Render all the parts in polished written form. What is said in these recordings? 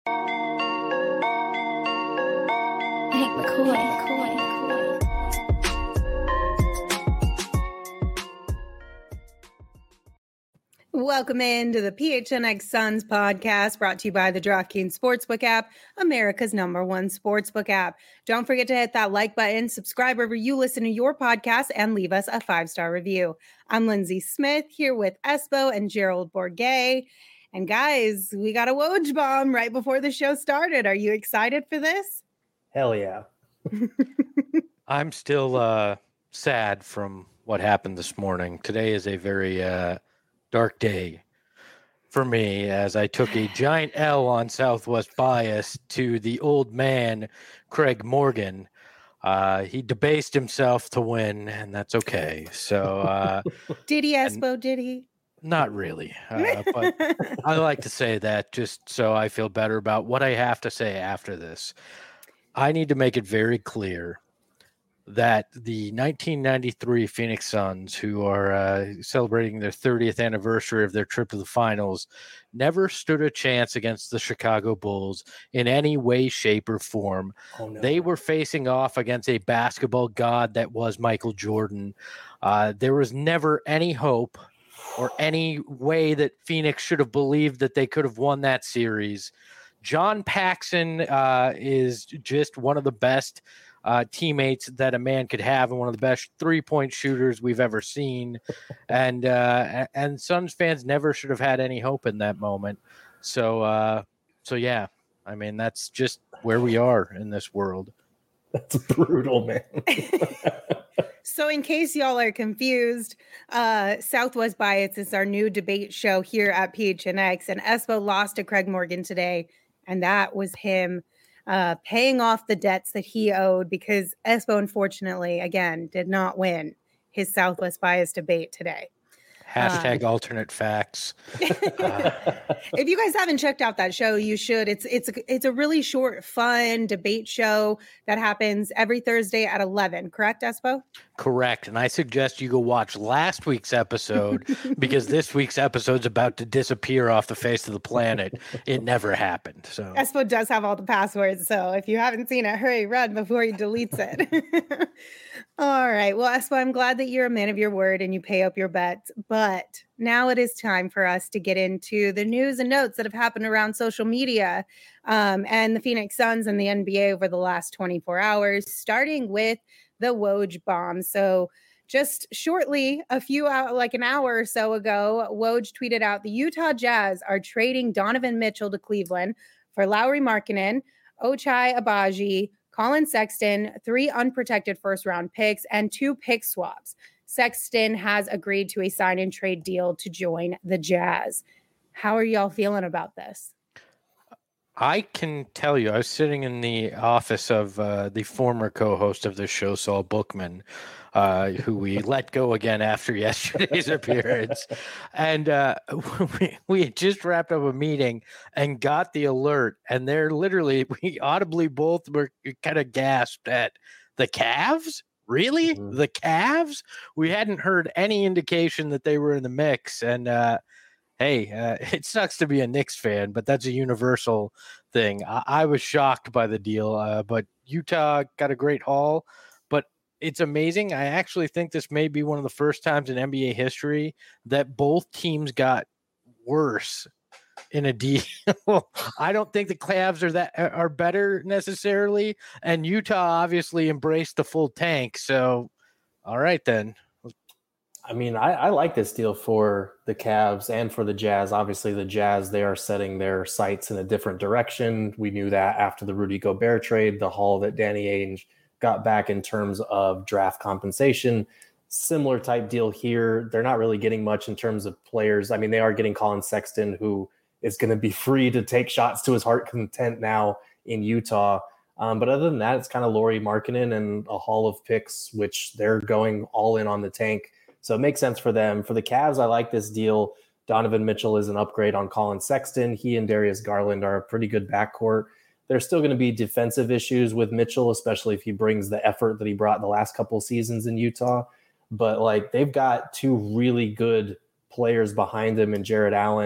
Hank McCoy. Welcome into the PHNX Suns podcast, brought to you by the DraftKings Sportsbook app, America's #1 sportsbook app. Don't forget to hit that like button, subscribe wherever you listen to your podcast, and leave us a 5-star review. I'm Lindsay Smith here with Espo and Gerald Bourguet. And guys, we got a Woj bomb right before the show started. Are you excited for this? Hell yeah. I'm still sad from what happened this morning. Today is a very dark day for me as I took a giant L on Southwest Bias to the old man, Craig Morgan. He debased himself to win, and that's okay. So, did he, Espo? Did he? Not really, but I like to say that just so I feel better about what I have to say after this. I need to make it very clear that the 1993 Phoenix Suns, who are celebrating their 30th anniversary of their trip to the finals, never stood a chance against the Chicago Bulls in any way, shape, or form. Oh, no. They were facing off against a basketball god that was Michael Jordan. There was never any hope or any way that Phoenix should have believed that they could have won that series. John Paxson is just one of the best teammates that a man could have, and one of the best three-point shooters we've ever seen. And Suns fans never should have had any hope in that moment. So yeah, I mean, that's just where we are in this world. That's brutal, man. So in case y'all are confused, Southwest Bias is our new debate show here at PHNX, and Espo lost to Craig Morgan today, and that was him paying off the debts that he owed, because Espo, unfortunately, again, did not win his Southwest Bias debate today. Hashtag alternate facts. If you guys haven't checked out that show, you should. It's a really short, fun debate show that happens every Thursday at 11. Correct, Espo? Correct. And I suggest you go watch last week's episode because this week's episode's about to disappear off the face of the planet. It never happened. So Espo does have all the passwords. So if you haven't seen it, hurry, run before he deletes it. All right. Well, Espo, I'm glad that you're a man of your word and you pay up your bets. But now it is time for us to get into the news and notes that have happened around social media and the Phoenix Suns and the NBA over the last 24 hours, starting with the Woj bomb. So just shortly, an hour or so ago, Woj tweeted out, the Utah Jazz are trading Donovan Mitchell to Cleveland for Lauri Markkanen, Ochai Agbaji, Colin Sexton, 3 unprotected first-round picks, and 2 pick swaps. Sexton has agreed to a sign-and-trade deal to join the Jazz. How are y'all feeling about this? I can tell you, I was sitting in the office of the former co-host of the show, Saul Bookman, who we let go again after yesterday's appearance. And we had just wrapped up a meeting and got the alert. And we audibly both were kind of gasped at the Cavs. Really? Mm-hmm. The Cavs? We hadn't heard any indication that they were in the mix. And hey, it sucks to be a Knicks fan, but that's a universal thing. I was shocked by the deal, but Utah got a great haul. But it's amazing. I actually think this may be one of the first times in NBA history that both teams got worse in a deal. I don't think the Cavs are better necessarily, and Utah obviously embraced the full tank. So, all right then. I mean, I like this deal for the Cavs and for the Jazz. Obviously, the Jazz, they are setting their sights in a different direction. We knew that after the Rudy Gobert trade, the haul that Danny Ainge got back in terms of draft compensation. Similar type deal here. They're not really getting much in terms of players. I mean, they are getting Colin Sexton, who is going to be free to take shots to his heart content now in Utah. But other than that, it's kind of Lauri Markkanen and a haul of picks, which they're going all in on the tank. So it makes sense for them. For the Cavs, I like this deal. Donovan Mitchell is an upgrade on Colin Sexton. He and Darius Garland are a pretty good backcourt. There's still going to be defensive issues with Mitchell, especially if he brings the effort that he brought the last couple of seasons in Utah. But they've got 2 really good players behind him in Jarrett Allen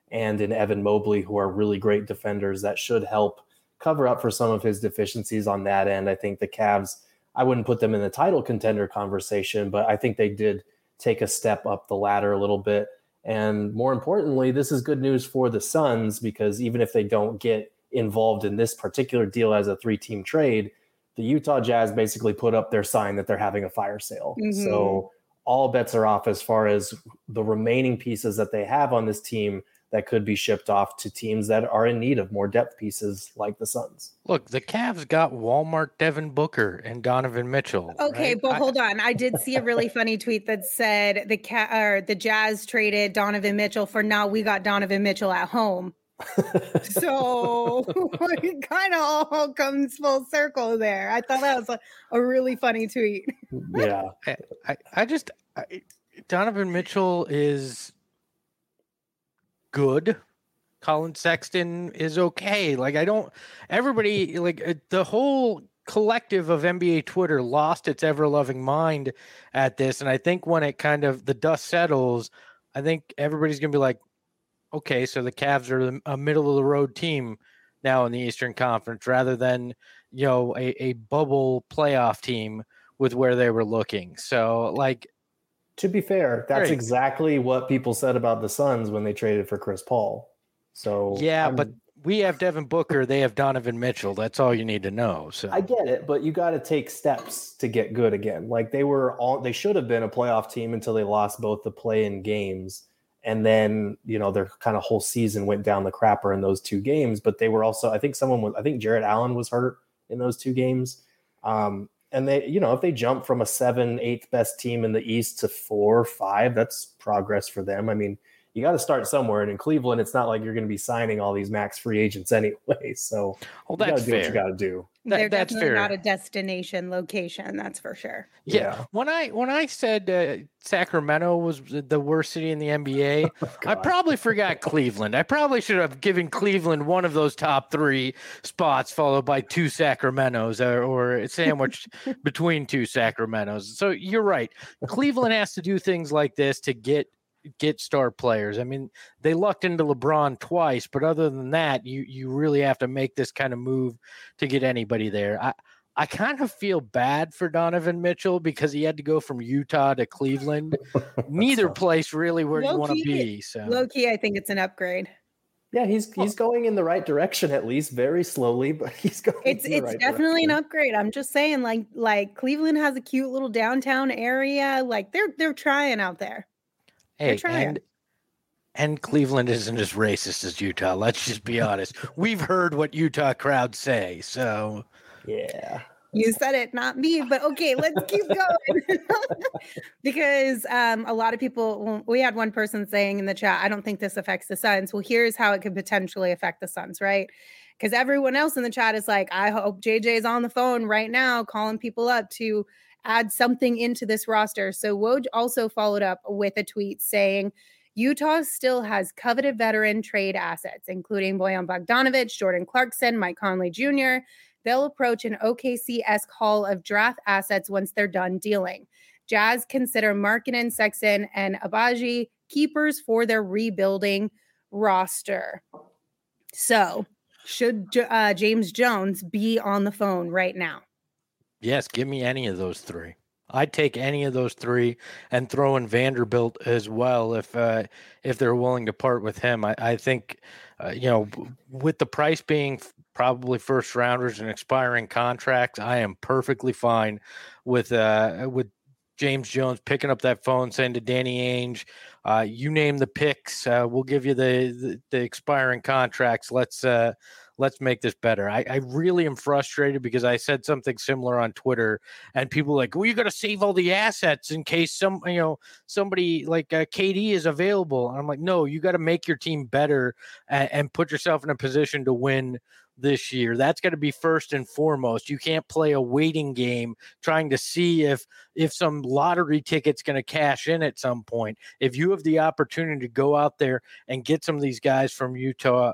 and in Evan Mobley, who are really great defenders that should help cover up for some of his deficiencies on that end. I think the Cavs, I wouldn't put them in the title contender conversation, but I think they did take a step up the ladder a little bit. And more importantly, this is good news for the Suns, because even if they don't get involved in this particular deal as a 3-team trade, the Utah Jazz basically put up their sign that they're having a fire sale. Mm-hmm. So all bets are off as far as the remaining pieces that they have on this team that could be shipped off to teams that are in need of more depth pieces like the Suns. Look, the Cavs got Walmart Devin Booker and Donovan Mitchell. Okay, right? but hold on. I did see a really funny tweet that said the Jazz traded Donovan Mitchell for now we got Donovan Mitchell at home. So it kind of all comes full circle there. I thought that was a really funny tweet. Yeah. I Donovan Mitchell is good. Colin Sexton is okay. Everybody, the whole collective of NBA Twitter lost its ever-loving mind at this. And I think when it the dust settles, I think everybody's going to be like, okay, so the Cavs are a middle-of-the-road team now in the Eastern Conference rather than, a bubble playoff team with where they were looking. So, to be fair, that's exactly what people said about the Suns when they traded for Chris Paul. So yeah, but we have Devin Booker, they have Donovan Mitchell. That's all you need to know. So I get it, but you got to take steps to get good again. They should have been a playoff team until they lost both the play-in games. And then, their kind of whole season went down the crapper in those 2 games. But they were also, I think Jared Allen was hurt in those 2 games. And they, if they jump from a 7, 8th best team in the East to 4, 5, that's progress for them. I mean, you got to start somewhere. And in Cleveland, it's not like you're going to be signing all these max free agents anyway. So you got to do what you got to do. They're that's definitely fair. Not a destination location, that's for sure. Yeah. When I said Sacramento was the worst city in the NBA, I probably forgot Cleveland. I probably should have given Cleveland one of those top 3 spots, followed by 2 Sacramentos or sandwiched between 2 Sacramentos. So you're right. Cleveland has to do things like this to get star players. I mean, they lucked into LeBron twice, but other than that, you really have to make this kind of move to get anybody there. I kind of feel bad for Donovan Mitchell because he had to go from Utah to Cleveland. Neither place really where you want to be. So low-key, I think it's an upgrade. Yeah, he's going in the right direction, at least very slowly, but he's going. It's definitely an upgrade. I'm just saying, like Cleveland has a cute little downtown area. Like they're trying out there. Hey, and Cleveland isn't as racist as Utah. Let's just be honest. We've heard what Utah crowds say, so yeah. You said it, not me, but okay, let's keep going. Because a lot of people, we had one person saying in the chat, I don't think this affects the Suns. Well, here's how it could potentially affect the Suns, right? Because everyone else in the chat is like, I hope JJ is on the phone right now calling people up to add something into this roster. So Woj also followed up with a tweet saying, Utah still has coveted veteran trade assets, including Bojan Bogdanovic, Jordan Clarkson, Mike Conley Jr. They'll approach an OKC-esque haul of draft assets once they're done dealing. Jazz consider Markkanen, Sexton, and Abaji keepers for their rebuilding roster. So should James Jones be on the phone right now? Yes, give me any of those 3. I'd take any of those 3 and throw in Vanderbilt as well if they're willing to part with him. I think, with the price being probably first rounders and expiring contracts, I am perfectly fine with James Jones picking up that phone, saying to Danny Ainge, you name the picks, we'll give you the expiring contracts. Let's make this better. I really am frustrated because I said something similar on Twitter and people were like, well, you got to save all the assets in case somebody like KD is available. And I'm like, no, you got to make your team better and put yourself in a position to win this year. That's got to be first and foremost. You can't play a waiting game trying to see if some lottery ticket's going to cash in at some point. If you have the opportunity to go out there and get some of these guys from Utah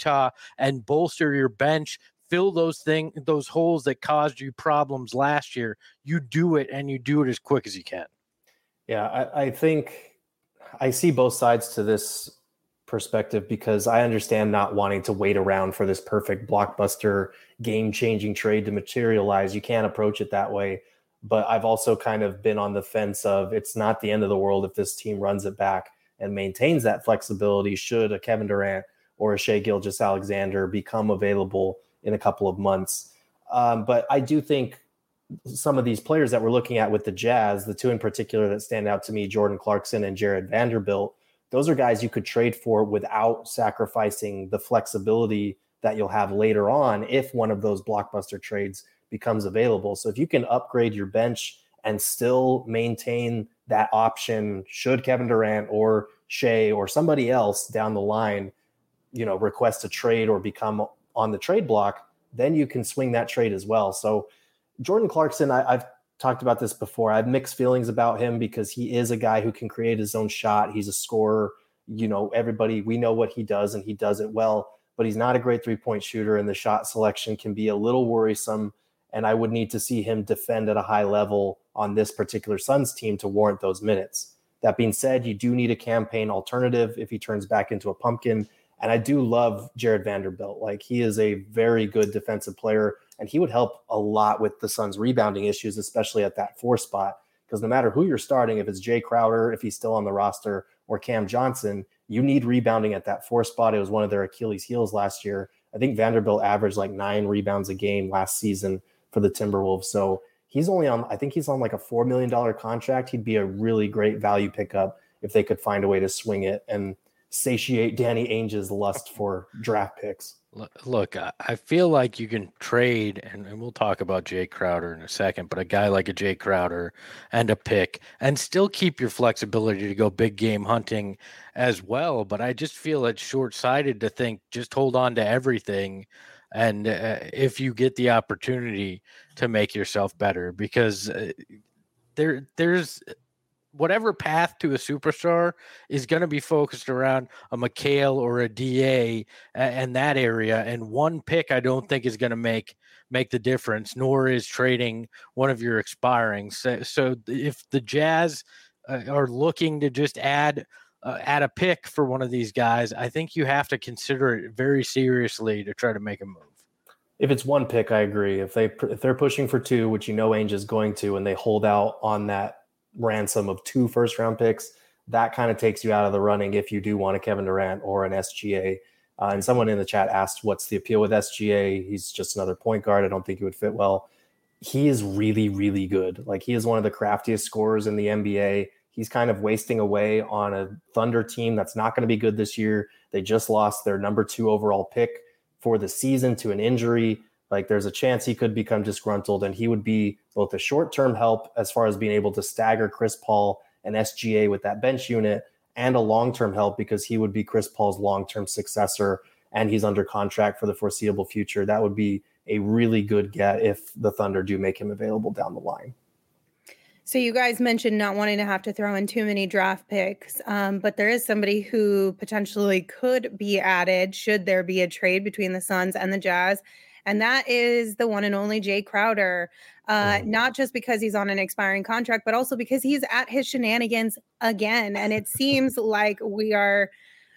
and bolster your bench, fill those holes that caused you problems last year, you do it, and you do it as quick as you can. Yeah, I think I see both sides to this perspective, because I understand not wanting to wait around for this perfect blockbuster game-changing trade to materialize. You can't approach it that way. But I've also kind of been on the fence of it's not the end of the world if this team runs it back and maintains that flexibility should a Kevin Durant or a Shai Gilgeous-Alexander become available in a couple of months. But I do think some of these players that we're looking at with the Jazz, the two in particular that stand out to me, Jordan Clarkson and Jared Vanderbilt, those are guys you could trade for without sacrificing the flexibility that you'll have later on if one of those blockbuster trades becomes available. So if you can upgrade your bench and still maintain that option, should Kevin Durant or Shai or somebody else down the line, request a trade or become on the trade block, then you can swing that trade as well. So Jordan Clarkson, I've talked about this before. I have mixed feelings about him because he is a guy who can create his own shot. He's a scorer. We know what he does and he does it well, but he's not a great 3-point shooter, and the shot selection can be a little worrisome. And I would need to see him defend at a high level on this particular Suns team to warrant those minutes. That being said, you do need a campaign alternative if he turns back into a pumpkin. And I do love Jared Vanderbilt. Like, he is a very good defensive player, and he would help a lot with the Suns' rebounding issues, especially at that 4 spot. Because no matter who you're starting, if it's Jay Crowder, if he's still on the roster, or Cam Johnson, you need rebounding at that 4 spot. It was one of their Achilles heels last year. I think Vanderbilt averaged like 9 rebounds a game last season for the Timberwolves. So he's on like a $4 million contract. He'd be a really great value pickup if they could find a way to swing it and satiate Danny Ainge's lust for draft picks. Look, I feel like you can trade, and we'll talk about Jay Crowder in a second, but a guy like a Jay Crowder and a pick and still keep your flexibility to go big game hunting as well. But I just feel it's short-sighted to think just hold on to everything. And if you get the opportunity to make yourself better, because there's whatever path to a superstar is going to be focused around a McHale or a DA and that area. And one pick I don't think is going to make the difference, nor is trading one of your expiring. So if the Jazz are looking to just add a pick for one of these guys, I think you have to consider it very seriously to try to make a move. If it's one pick, I agree. If they're pushing for 2, which Ainge is going to, and they hold out on that ransom of 2 first-round picks, that kind of takes you out of the running if you do want a Kevin Durant or an SGA. And someone in the chat asked, what's the appeal with SGA? He's just another point guard. I don't think he would fit well. He is really, really good. Like, he is one of the craftiest scorers in the NBA. He's kind of wasting away on a Thunder team that's not going to be good this year. They just lost their number 2 overall pick for the season to an injury. Like, there's a chance he could become disgruntled, and he would be both a short-term help as far as being able to stagger Chris Paul and SGA with that bench unit, and a long-term help because he would be Chris Paul's long-term successor, and he's under contract for the foreseeable future. That would be a really good get if the Thunder do make him available down the line. So you guys mentioned not wanting to have to throw in too many draft picks, but there is somebody who potentially could be added should there be a trade between the Suns and the Jazz. And that is the one and only Jay Crowder, not just because he's on an expiring contract, but also because he's at his shenanigans again. And it seems like we are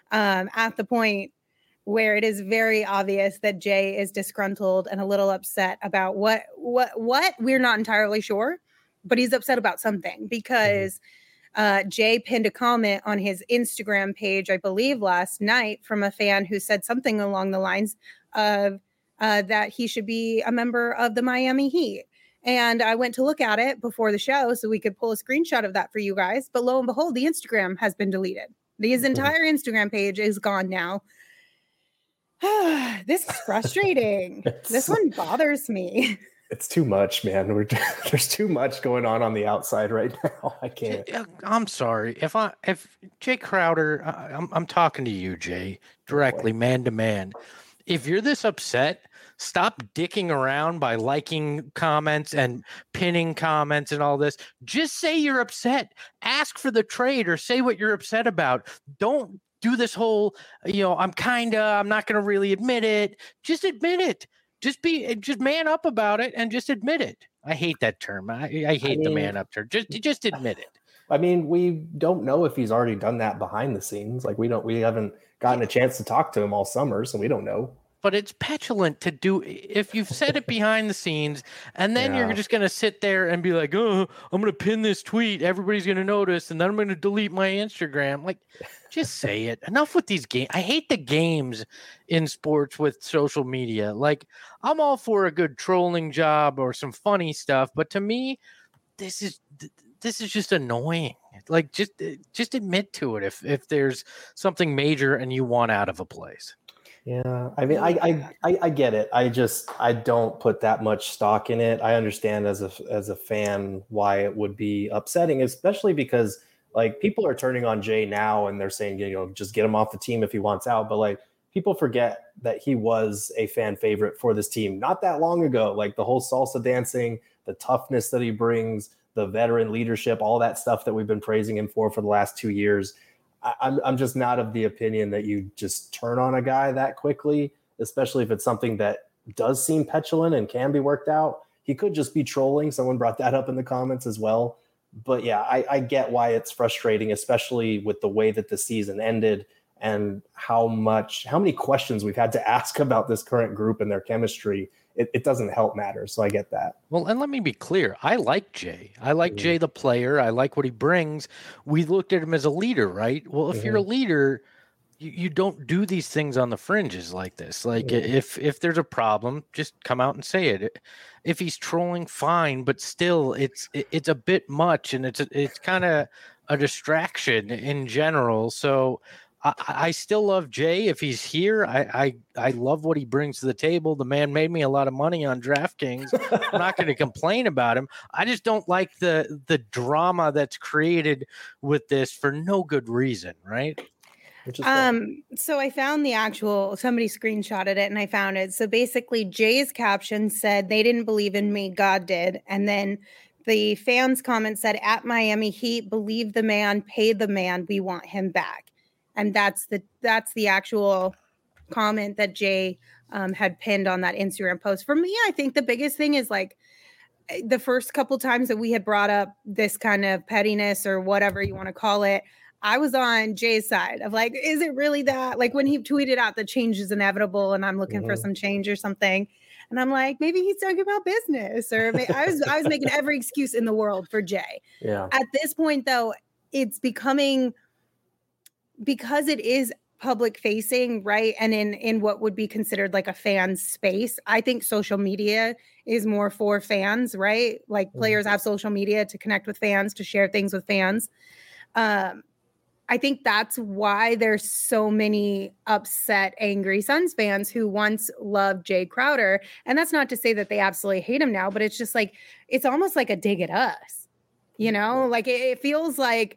at the point where it is very obvious that Jay is disgruntled and a little upset about what we're not entirely sure, but he's upset about something because Jay pinned a comment on his Instagram page, I believe last night, from a fan who said something along the lines of, that he should be a member of the Miami Heat. And I went to look at it before the show so we could pull a screenshot of that for you guys. But lo and behold, the Instagram has been deleted. His entire Instagram page is gone now. This is frustrating. This one bothers me. It's too much, man. There's too much going on the outside right now. I can't. I'm sorry. If Jay Crowder, I'm talking to you, Jay, directly, man to man. If you're this upset, stop dicking around by liking comments and pinning comments and all this. Just say you're upset. Ask for the trade or say what you're upset about. Don't do this whole, I'm not going to really admit it. Just admit it. Just man up about it and just admit it. I hate that term. I hate the man up term. Just admit it. I mean, we don't know if he's already done that behind the scenes. Like, we haven't gotten a chance to talk to him all summer, so we don't know. But it's petulant to do if you've said it behind the scenes and then you're just going to sit there and be like, oh, I'm going to pin this tweet. Everybody's going to notice. And then I'm going to delete my Instagram. Like, just say it. Enough with these games. I hate the games in sports with social media. Like, I'm all for a good trolling job or some funny stuff. But to me, this is just annoying. Like, just admit to it if there's something major and you want out of a place. Yeah, I mean, I get it. I don't put that much stock in it. I understand as a fan why it would be upsetting, especially because like people are turning on Jay now and they're saying, just get him off the team if he wants out. But like people forget that he was a fan favorite for this team not that long ago. Like the whole salsa dancing, the toughness that he brings, the veteran leadership, all that stuff that we've been praising him for the last 2 years. I'm just not of the opinion that you just turn on a guy that quickly, especially if it's something that does seem petulant and can be worked out. He could just be trolling. Someone brought that up in the comments as well. But yeah, I get why it's frustrating, especially with the way that the season ended and how many questions we've had to ask about this current group and their chemistry. It doesn't help matters. So I get that. Well, and let me be clear. I like Jay. I like Jay, the player. I like what he brings. We looked at him as a leader, right? Well, if you're a leader, you don't do these things on the fringes like this. Like if there's a problem, just come out and say it. If he's trolling, fine, but still it's a bit much and it's kind of a distraction in general. So I still love Jay. If he's here, I love what he brings to the table. The man made me a lot of money on DraftKings. I'm not going to complain about him. I just don't like the drama that's created with this for no good reason, right? So I found somebody screenshotted it and I found it. So basically Jay's caption said, "They didn't believe in me, God did." And then the fans comment said, "At Miami Heat, believe the man, pay the man, we want him back." And that's the actual comment that Jay had pinned on that Instagram post. For me, I think the biggest thing is like the first couple times that we had brought up this kind of pettiness or whatever you want to call it, I was on Jay's side of like, is it really that? Like when he tweeted out the change is inevitable and I'm looking for some change or something. And I'm like, maybe he's talking about business or I was making every excuse in the world for Jay. Yeah. At this point, though, it's becoming, because it is public facing, right? And in what would be considered like a fan space, I think social media is more for fans, right? Like players have social media to connect with fans, to share things with fans. I think that's why there's so many upset, angry Suns fans who once loved Jay Crowder. And that's not to say that they absolutely hate him now, but it's just like, it's almost like a dig at us, like it feels like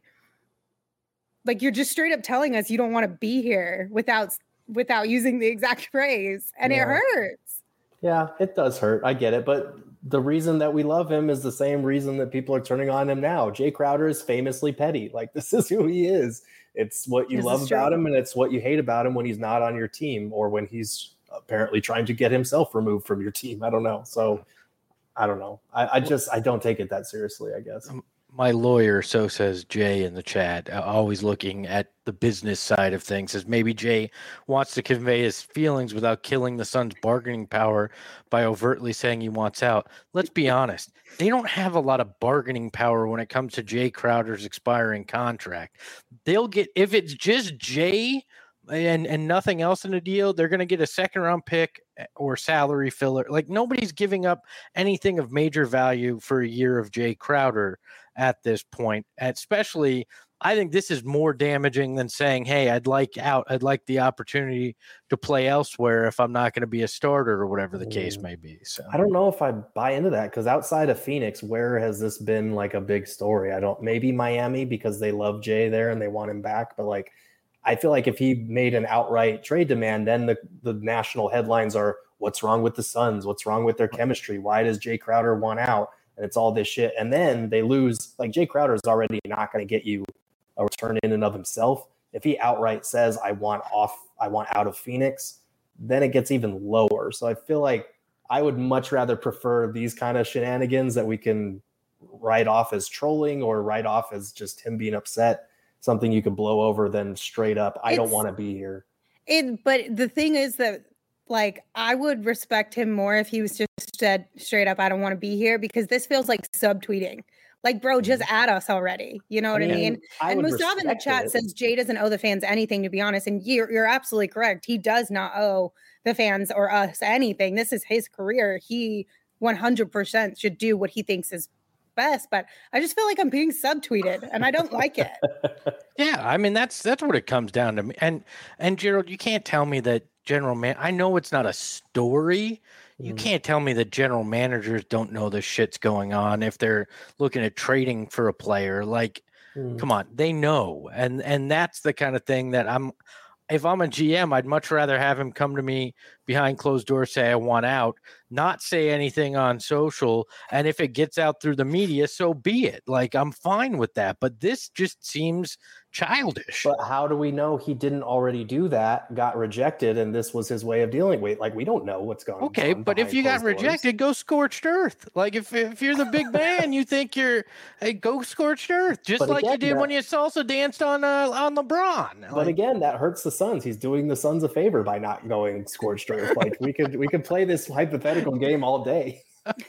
you're just straight up telling us you don't want to be here without using the exact phrase. And it hurts. Yeah, it does hurt. I get it. But the reason that we love him is the same reason that people are turning on him now. Jay Crowder is famously petty. Like, this is who he is. It's what you love about him, and it's what you hate about him when he's not on your team or when he's apparently trying to get himself removed from your team. I don't know. So I don't know. I don't take it that seriously, I guess. My lawyer, so says Jay in the chat, always looking at the business side of things, says maybe Jay wants to convey his feelings without killing the Suns' bargaining power by overtly saying he wants out. Let's be honest. They don't have a lot of bargaining power when it comes to Jay Crowder's expiring contract. They'll get, if it's just Jay and nothing else in the deal, they're going to get a second round pick or salary filler. Like, nobody's giving up anything of major value for a year of Jay Crowder at this point. Especially, I think this is more damaging than saying, hey, I'd like out. I'd like the opportunity to play elsewhere if I'm not going to be a starter or whatever the case may be. So I don't know if I buy into that, because outside of Phoenix, where has this been like a big story? Maybe Miami, because they love Jay there and they want him back. But like, I feel like if he made an outright trade demand, then the national headlines are, what's wrong with the Suns? What's wrong with their chemistry? Why does Jay Crowder want out? And it's all this shit. And then they lose. Like, Jay Crowder is already not going to get you a return in and of himself. If he outright says, I want out of Phoenix, then it gets even lower. So I feel like I would much rather prefer these kind of shenanigans that we can write off as trolling or write off as just him being upset, something you can blow over, than straight up, I don't want to be here. But the thing is that, like, I would respect him more if he was just said straight up, I don't want to be here, because this feels like subtweeting. Like, bro, just add us already. You know what I mean? And Mustafa in the chat says Jay doesn't owe the fans anything, to be honest. And you're absolutely correct. He does not owe the fans or us anything. This is his career. He 100% should do what he thinks is best, but I just feel like I'm being subtweeted and I don't like it. Yeah, I mean that's what it comes down to. And Gerald, you can't tell me that I know it's not a story. You can't tell me that general managers don't know the shit's going on if they're looking at trading for a player. Like, come on, they know. And that's the kind of thing that if I'm a GM, I'd much rather have him come to me behind closed doors, say I want out, not say anything on social. And if it gets out through the media, so be it. Like, I'm fine with that. But this just seems childish. But how do we know he didn't already do that, got rejected, and this was his way of dealing with? Like, we don't know what's going on. Okay, but if you got rejected, go scorched earth. Like, if you're the big man, you think go scorched earth, just but like again, you did when you salsa danced on LeBron. But again, that hurts the Suns. He's doing the Suns a favor by not going scorched earth. Like, we could play this hypothetical game all day.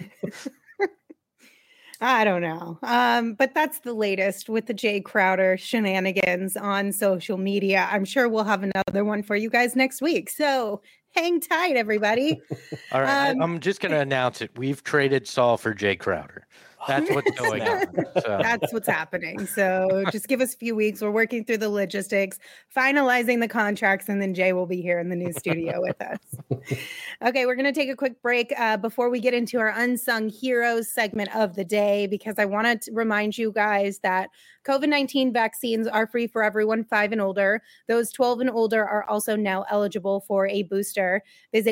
I don't know. But that's the latest with the Jay Crowder shenanigans on social media. I'm sure we'll have another one for you guys next week. So hang tight, everybody. All right. I'm just going to announce it. We've traded Saul for Jay Crowder. That's what's going on. So. That's what's happening. So just give us a few weeks. We're working through the logistics, finalizing the contracts, and then Jay will be here in the new studio with us. Okay, we're going to take a quick break before we get into our Unsung Heroes segment of the day, because I want to remind you guys that COVID-19 vaccines are free for everyone 5 and older. Those 12 and older are also now eligible for a booster. Visit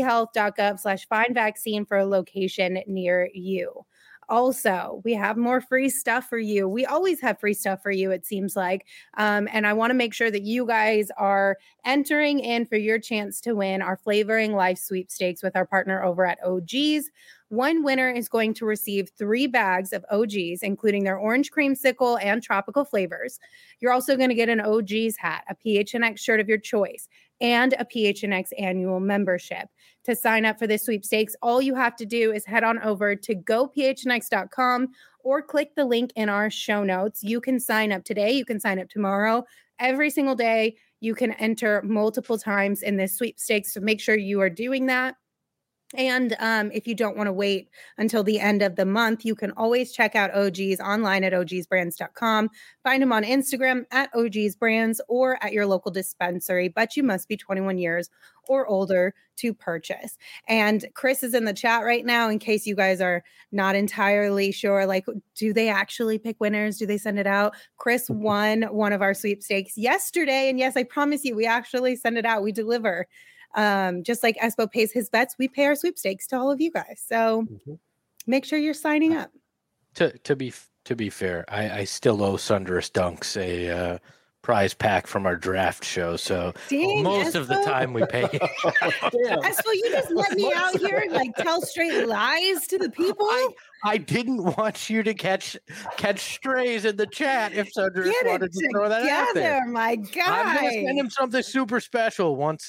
azhealth.gov/find-vaccine for a location near you. Also, we have more free stuff for you. We always have free stuff for you, it seems like. And I want to make sure that you guys are entering in for your chance to win our Flavoring Life sweepstakes with our partner over at OG's. One winner is going to receive 3 bags of OG's, including their orange creamsicle and tropical flavors. You're also going to get an OG's hat, a PHNX shirt of your choice, and a PHNX annual membership. To sign up for this sweepstakes, all you have to do is head on over to gophnx.com or click the link in our show notes. You can sign up today. You can sign up tomorrow. Every single day, you can enter multiple times in this sweepstakes. So make sure you are doing that. And if you don't want to wait until the end of the month, you can always check out OG's online at ogsbrands.com. Find them on Instagram at ogsbrands or at your local dispensary, but you must be 21 years or older to purchase. And Chris is in the chat right now in case you guys are not entirely sure, like, do they actually pick winners? Do they send it out? Chris won one of our sweepstakes yesterday. And yes, I promise you, we actually send it out. We deliver. Just like Espo pays his bets, we pay our sweepstakes to all of you guys. So make sure you're signing up. To be fair, I still owe Sunderous Dunks a prize pack from our draft show. So most of the time we pay. Espo, you just let me out here and like tell straight lies to the people. I didn't want you to catch strays in the chat if Sunderous wanted to throw that out there. My God. I'm going to send him something super special once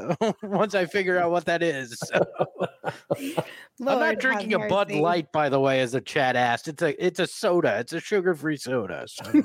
I figure out what that is. So. I'm not drinking a Bud Light, by the way, as the chat asked. It's a soda. It's a sugar-free soda. So.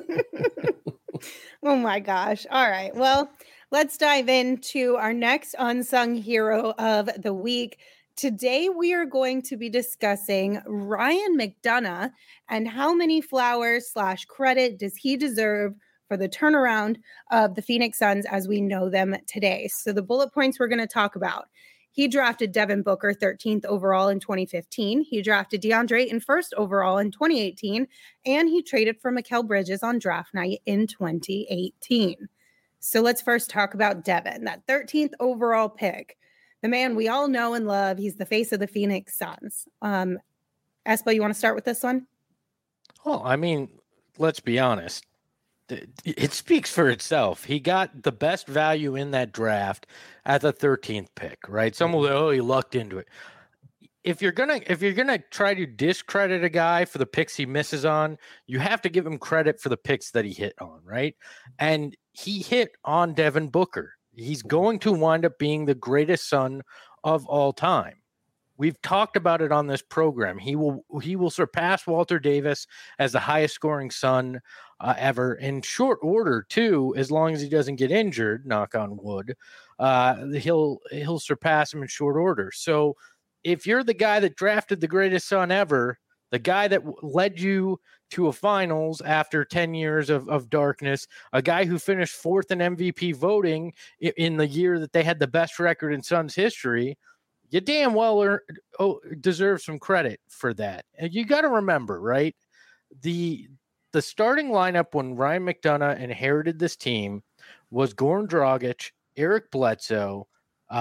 Oh my gosh. All right. Well, let's dive into our next unsung hero of the week. Today, we are going to be discussing Ryan McDonough and how many flowers / credit does he deserve for the turnaround of the Phoenix Suns as we know them today. So the bullet points we're going to talk about. He drafted Devin Booker 13th overall in 2015. He drafted DeAndre Ayton 1st overall in 2018. And he traded for Mikal Bridges on draft night in 2018. So let's first talk about Devin, that 13th overall pick. The man we all know and love. He's the face of the Phoenix Suns. Espo, you want to start with this one? Well, I mean, let's be honest. It speaks for itself. He got the best value in that draft at the 13th pick, right? Someone will say, he lucked into it. If you're gonna try to discredit a guy for the picks he misses on, you have to give him credit for the picks that he hit on, right? And he hit on Devin Booker. He's going to wind up being the greatest Sun of all time. We've talked about it on this program. He will surpass Walter Davis as the highest scoring Sun ever in short order too, as long as he doesn't get injured, knock on wood. He'll surpass him in short order. So if you're the guy that drafted the greatest Sun ever, the guy that led you to a finals after 10 years of darkness, a guy who finished fourth in MVP voting in the year that they had the best record in Suns history, you damn well deserve some credit for that. And you got to remember, right? The starting lineup when Ryan McDonough inherited this team was Goran Dragic, Eric Bledsoe,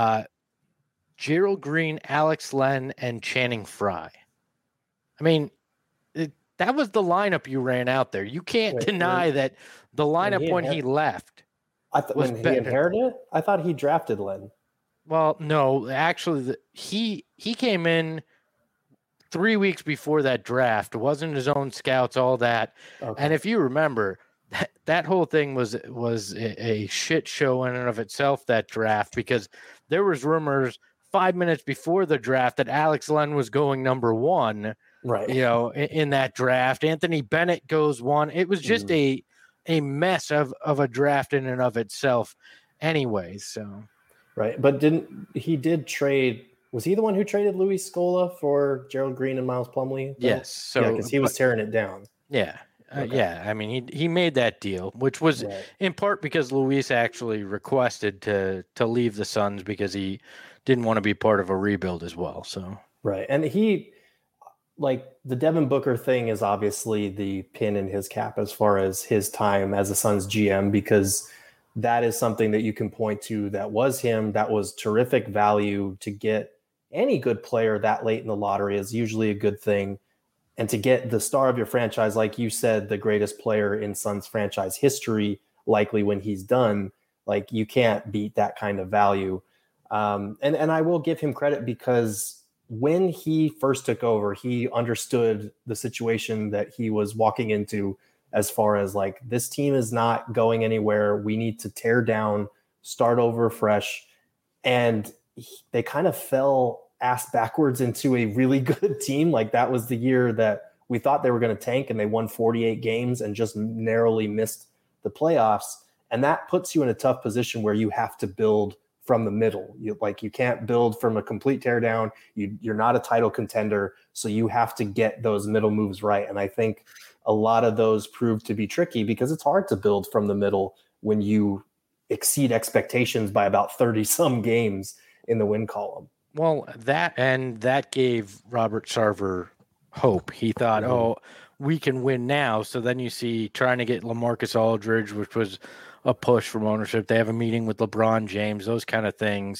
Gerald Green, Alex Len, and Channing Frye. I mean, that was the lineup you ran out there. You can't deny that the lineup when he left. When he inherited it, I thought he drafted Len. Well, no, actually, he came in 3 weeks before that draft. It wasn't his own scouts, all that. Okay. And if you remember, that whole thing was a shit show in and of itself, that draft, because there was rumors 5 minutes before the draft that Alex Len was going number one. Right. You know, in that draft. Anthony Bennett goes one. It was just a mess of a draft in and of itself anyway, so. Right, but he did trade? Was he the one who traded Luis Scola for Gerald Green and Miles Plumlee? Yes. So because he was tearing it down. Yeah, yeah. I mean, he made that deal, which was in part because Luis actually requested to leave the Suns because he didn't want to be part of a rebuild as well. So right, and he, like, the Devin Booker thing is obviously the pin in his cap as far as his time as a Suns GM, because that is something that you can point to that was him. That was terrific value. To get any good player that late in the lottery is usually a good thing. And to get the star of your franchise, like you said, the greatest player in Suns franchise history, likely when he's done, like, you can't beat that kind of value. And I will give him credit, because when he first took over, he understood the situation that he was walking into, as far as, like, this team is not going anywhere. We need to tear down, start over fresh. And they kind of fell ass backwards into a really good team. Like, that was the year that we thought they were going to tank, and they won 48 games and just narrowly missed the playoffs. And that puts you in a tough position where you have to build from the middle. You can't build from a complete teardown. You're not a title contender, so you have to get those middle moves right. And I think a lot of those proved to be tricky, because it's hard to build from the middle when you exceed expectations by about 30 some games in the win column. Well, that gave Robert Sarver hope. He thought, we can win now. So then you see trying to get LaMarcus Aldridge, which was a push from ownership. They have a meeting with LeBron James, those kind of things.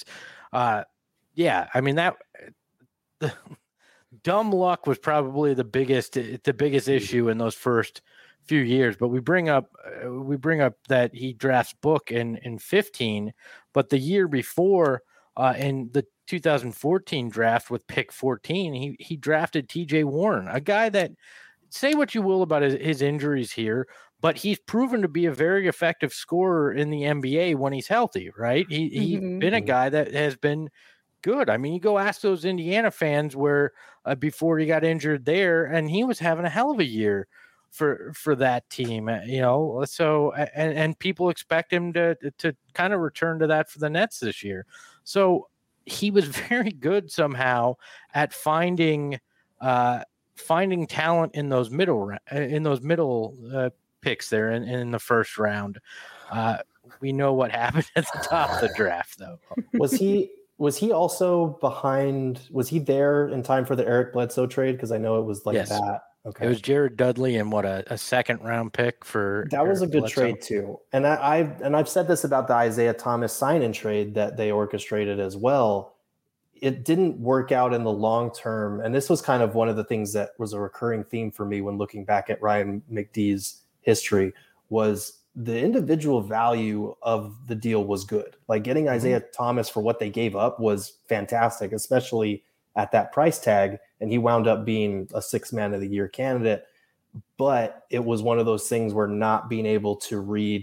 Yeah, I mean, the dumb luck was probably the biggest issue in those first few years. But we bring up that he drafts Book in 15, but the year before, in the 2014 draft with pick 14, he drafted TJ Warren, a guy that, say what you will about his injuries here, but he's proven to be a very effective scorer in the NBA when he's healthy, right? He's been a guy that has been good. I mean, you go ask those Indiana fans where before he got injured there, and he was having a hell of a year for that team, you know. So and people expect him to kind of return to that for the Nets this year. So he was very good somehow at finding talent in those middle picks there in the first round. We know what happened at the top of the draft, though. Was he also behind? Was he there in time for the Eric Bledsoe trade? Because I know it was like that. Okay, it was Jared Dudley and a second round pick for that. Was Eric a good Bledsoe trade too. And I've said this about the Isaiah Thomas sign-in trade that they orchestrated as well. It didn't work out in the long term, and this was kind of one of the things that was a recurring theme for me when looking back at Ryan McDee's history. Was the individual value of the deal was good. Like, getting Isaiah Thomas for what they gave up was fantastic, especially at that price tag. And he wound up being a 6th man of the year candidate. But it was one of those things where not being able to read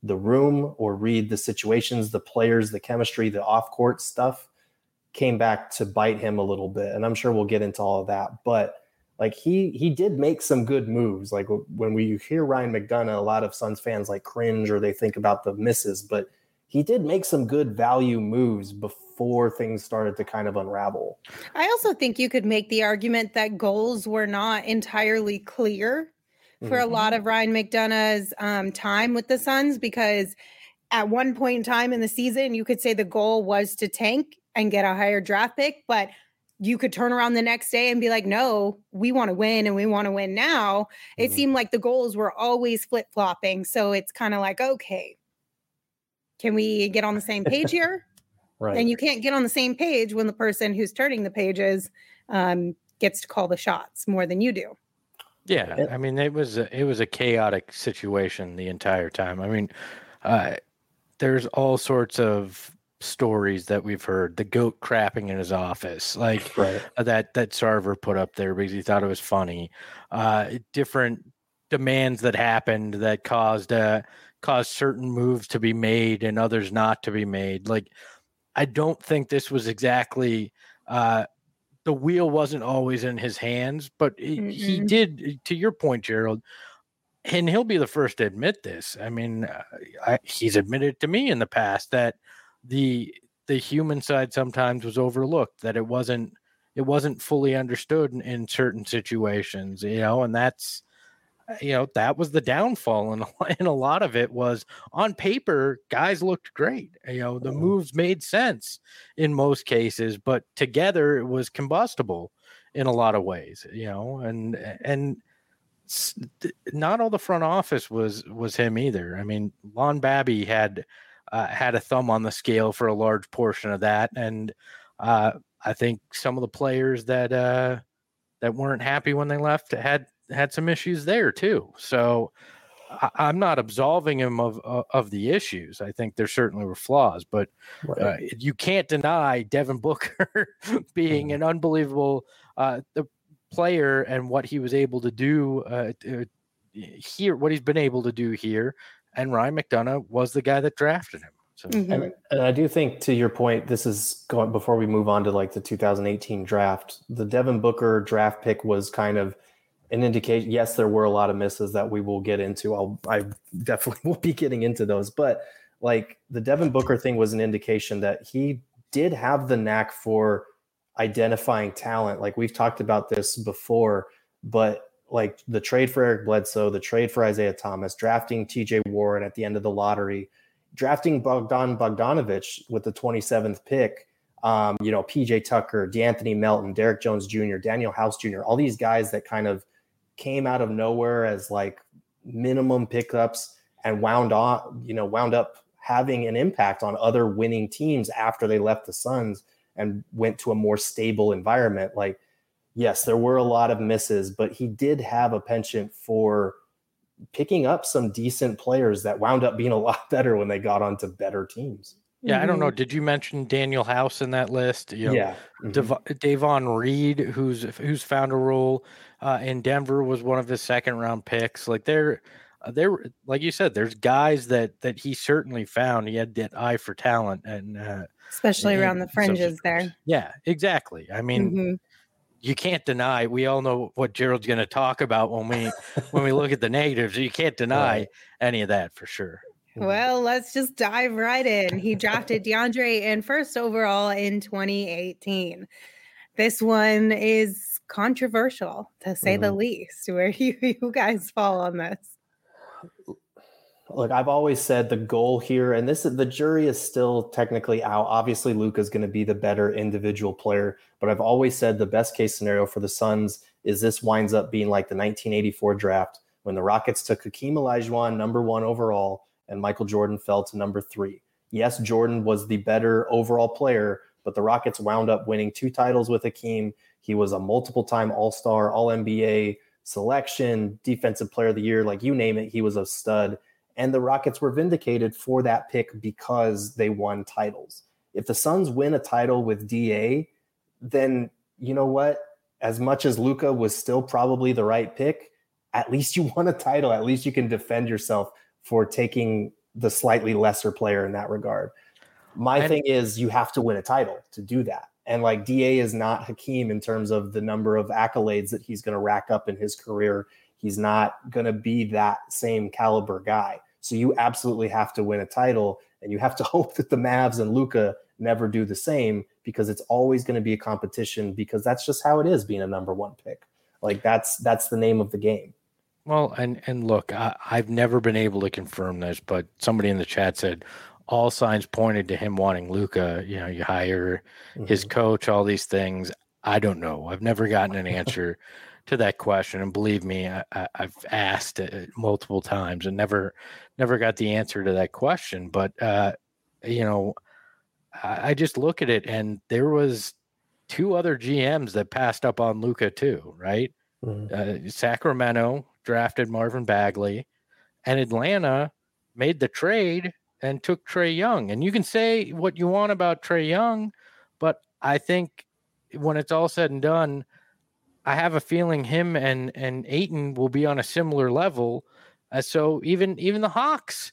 the room or read the situations, the players, the chemistry, the off-court stuff came back to bite him a little bit. And I'm sure we'll get into all of that. But like he did make some good moves. Like when we hear Ryan McDonough, a lot of Suns fans like cringe or they think about the misses, but he did make some good value moves before things started to kind of unravel. I also think you could make the argument that goals were not entirely clear for a lot of Ryan McDonough's time with the Suns, because at one point in time in the season, you could say the goal was to tank and get a higher draft pick, but you could turn around the next day and be like, no, we want to win and we want to win now. It seemed like the goals were always flip-flopping. So it's kind of like, okay, can we get on the same page here? Right. And you can't get on the same page when the person who's turning the pages gets to call the shots more than you do. Yeah, I mean, it was a chaotic situation the entire time. I mean, there's all sorts of stories that we've heard. The goat crapping in his office, like that Sarver put up there because he thought it was funny. Different demands that happened that caused certain moves to be made and others not to be made. Like, I don't think this was exactly. The wheel wasn't always in his hands, but he did, to your point, Gerald, and he'll be the first to admit this. I mean, he's admitted to me in the past that the human side sometimes was overlooked, that it wasn't fully understood in certain situations, and that's, that was the downfall. And a lot of it was on paper, guys looked great. The moves made sense in most cases, but together it was combustible in a lot of ways, and not all the front office was him either. I mean, Lon Babby had a thumb on the scale for a large portion of that. And I think some of the players that weren't happy when they left had some issues there too. So I'm not absolving him of the issues. I think there certainly were flaws, but you can't deny Devin Booker being an unbelievable the player and what he was able to do here, what he's been able to do here. And Ryan McDonough was the guy that drafted him. So. And I do think, to your point, this is going before we move on to like the 2018 draft. The Devin Booker draft pick was kind of an indication. Yes, there were a lot of misses that we will get into. I definitely will be getting into those. But like the Devin Booker thing was an indication that he did have the knack for identifying talent. Like we've talked about this before, but like the trade for Eric Bledsoe, the trade for Isaiah Thomas, drafting TJ Warren at the end of the lottery, drafting Bogdan Bogdanovic with the 27th pick, PJ Tucker, DeAnthony Melton, Derek Jones Jr., Daniel House Jr., all these guys that kind of came out of nowhere as like minimum pickups and wound up having an impact on other winning teams after they left the Suns and went to a more stable environment. Like, yes, there were a lot of misses, but he did have a penchant for picking up some decent players that wound up being a lot better when they got onto better teams. Yeah, I don't know. Did you mention Daniel House in that list? Yeah. Davon Reed, who's found a role in Denver, was one of his second round picks. Like they're like you said, there's guys that he certainly found. He had that eye for talent, and especially around the fringes there. Yeah, exactly. I mean, you can't deny. We all know what Gerald's going to talk about when we look at the negatives. You can't deny any of that for sure. Well, let's just dive right in. He drafted DeAndre in first overall in 2018. This one is controversial, to say the least. Where you guys fall on this? Look, I've always said the goal here, and the jury is still technically out. Obviously, Luka's going to be the better individual player, but I've always said the best case scenario for the Suns is this winds up being like the 1984 draft when the Rockets took Hakeem Olajuwon, number 1 overall, and Michael Jordan fell to number 3. Yes, Jordan was the better overall player, but the Rockets wound up winning 2 titles with Hakeem. He was a multiple-time All-Star, All-NBA selection, Defensive Player of the Year, like you name it, he was a stud. And the Rockets were vindicated for that pick because they won titles. If the Suns win a title with DA, then you know what? As much as Luka was still probably the right pick, at least you won a title. At least you can defend yourself for taking the slightly lesser player in that regard. My thing is you have to win a title to do that. And like DA is not Hakeem in terms of the number of accolades that he's going to rack up in his career. He's not going to be that same caliber guy. So you absolutely have to win a title, and you have to hope that the Mavs and Luka never do the same, because it's always going to be a competition, because that's just how it is being a number one pick. Like that's the name of the game. Well, and look, I've never been able to confirm this, but somebody in the chat said all signs pointed to him wanting Luka. You know, you hire his coach, all these things. I don't know. I've never gotten an answer to that question. And believe me, I've asked it multiple times and never got the answer to that question. But, you know, I just look at it, and there was 2 other GMs that passed up on Luka too, right? Sacramento drafted Marvin Bagley, and Atlanta made the trade and took Trae Young. And you can say what you want about Trae Young, but I think when it's all said and done, I have a feeling him and Ayton will be on a similar level. So even the Hawks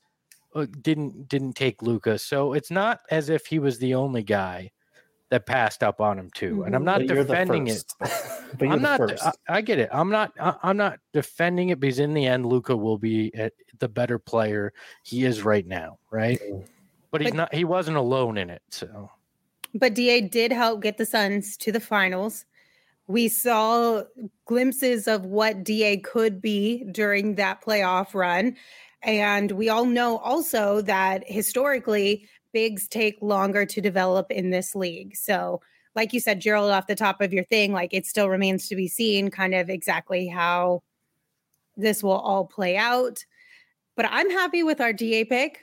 didn't take Luka. So it's not as if he was the only guy that passed up on him too. And I'm not defending it. I'm not. I get it. I'm not defending it, because in the end, Luka will be the better player he is right now, right? But he's not. He wasn't alone in it. So, but DA did help get the Suns to the finals. We saw glimpses of what DA could be during that playoff run, and we all know also that historically, bigs take longer to develop in this league. So, like you said, Gerald, off the top of your thing, like it still remains to be seen kind of exactly how this will all play out. But I'm happy with our DA pick.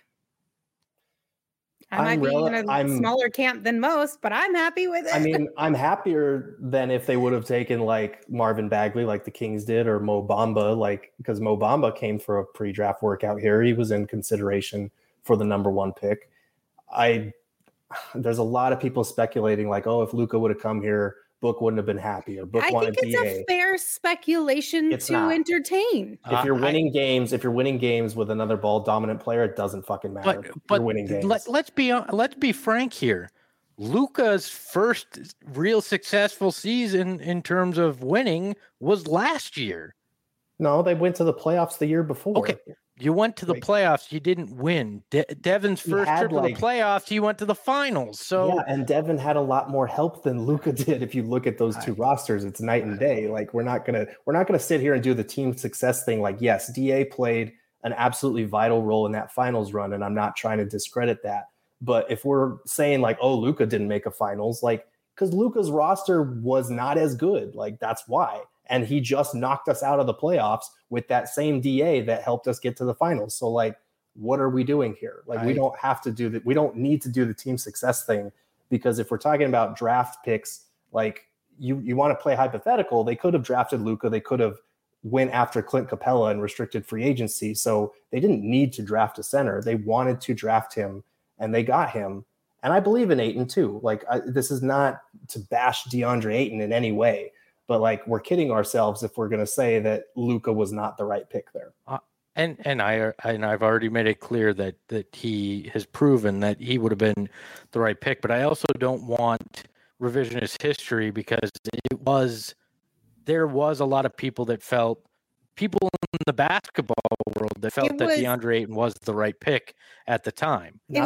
I might be in a smaller camp than most, but I'm happy with it. I mean, I'm happier than if they would have taken like Marvin Bagley, like the Kings did, or Mo Bamba, like, because Mo Bamba came for a pre-draft workout here. He was in consideration for the number one pick. There's a lot of people speculating like, oh, if Luka would have come here, Book wouldn't have been happy, or Book wanted DA. I think it's a fair speculation entertain. If you're winning games with another ball dominant player, it doesn't fucking matter. But you're winning games. Let's be frank here. Luka's first real successful season in terms of winning was last year. No, they went to the playoffs the year before. Okay. You went to the playoffs. You didn't win. Devin's first trip to the playoffs, he went to the finals. So yeah, and Devin had a lot more help than Luka did. If you look at those two rosters, it's night and day. Like we're not gonna sit here and do the team success thing. Like, yes, DA played an absolutely vital role in that finals run, and I'm not trying to discredit that. But if we're saying like, oh, Luka didn't make a finals, like, because Luka's roster was not as good, like that's why. And he just knocked us out of the playoffs with that same DA that helped us get to the finals. So like, what are we doing here? Like, we don't have to do that. We don't need to do the team success thing, because if we're talking about draft picks, like you want to play hypothetical, they could have drafted Luka. They could have went after Clint Capella and restricted free agency. So they didn't need to draft a center. They wanted to draft him, and they got him. And I believe in Ayton too. Like this is not to bash DeAndre Ayton in any way, but like we're kidding ourselves if we're going to say that Luka was not the right pick there. And I've already made it clear that he has proven that he would have been the right pick. But I also don't want revisionist history, because there was a lot of people in the basketball world that felt that DeAndre Ayton was the right pick at the time. It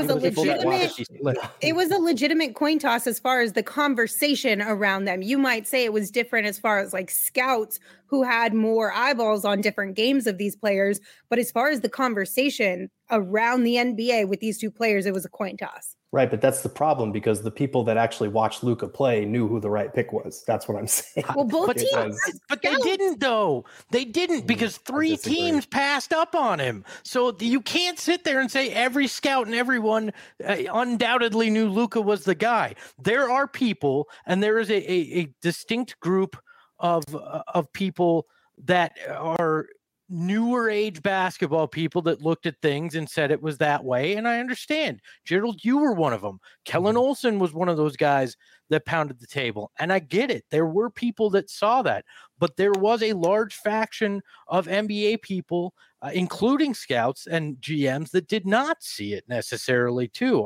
was a legitimate coin toss as far as the conversation around them. You might say it was different as far as like scouts who had more eyeballs on different games of these players. But as far as the conversation around the NBA with these two players, it was a coin toss. Right, but that's the problem, because the people that actually watched Luka play knew who the right pick was. That's what I'm saying. Well, both teams, but they didn't, though. They didn't, because 3 teams passed up on him. So you can't sit there and say every scout and everyone undoubtedly knew Luka was the guy. There are people, and there is a distinct group of people that are newer age basketball people that looked at things and said it was that way. And I understand. Gerald, you were one of them. Kellen Olson was one of those guys that pounded the table. And I get it. There were people that saw that, but there was a large faction of NBA people including scouts and GMs that did not see it necessarily too.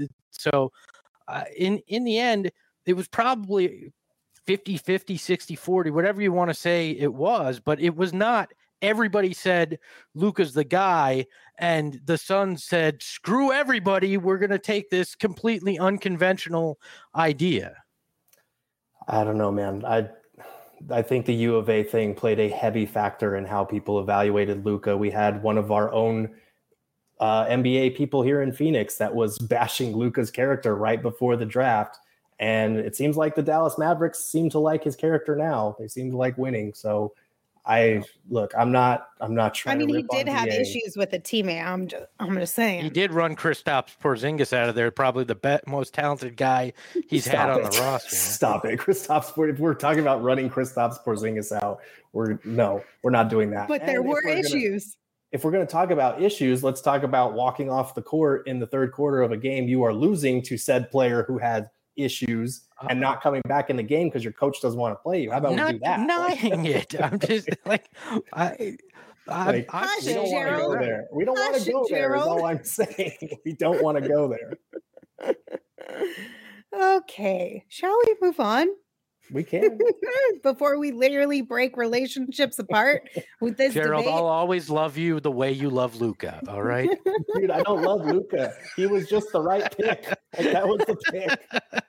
In the end, it was probably 50-50, 60-40, whatever you want to say it was, but it was not. Everybody said Luka's the guy, and the Suns said, screw everybody. We're going to take this completely unconventional idea. I don't know, man. I think the U of A thing played a heavy factor in how people evaluated Luka. We had one of our own NBA people here in Phoenix that was bashing Luka's character right before the draft. And it seems like the Dallas Mavericks seem to like his character now. They seem to like winning. So I'm not trying. I mean, to he did have issues with a teammate. I'm just saying. He did run Kristaps Porzingis out of there. Probably the most talented guy he's had on the roster. Stop it, Kristaps. If we're talking about running Kristaps Porzingis out, we're not doing that. But there were issues. If we're going to talk about issues, let's talk about walking off the court in the third quarter of a game you are losing to said player who had issues and not coming back in the game because your coach doesn't want to play you. How about we do that? Not denying it. I'm just like, we don't want to go there. We don't want to go there. Is all I'm saying. We don't want to go there. Okay, shall we move on? We can. Before we literally break relationships apart with this Gerald, debate. I'll always love you the way you love Luka. All right, dude. I don't love Luka. He was just the right pick. Like, that was the pick.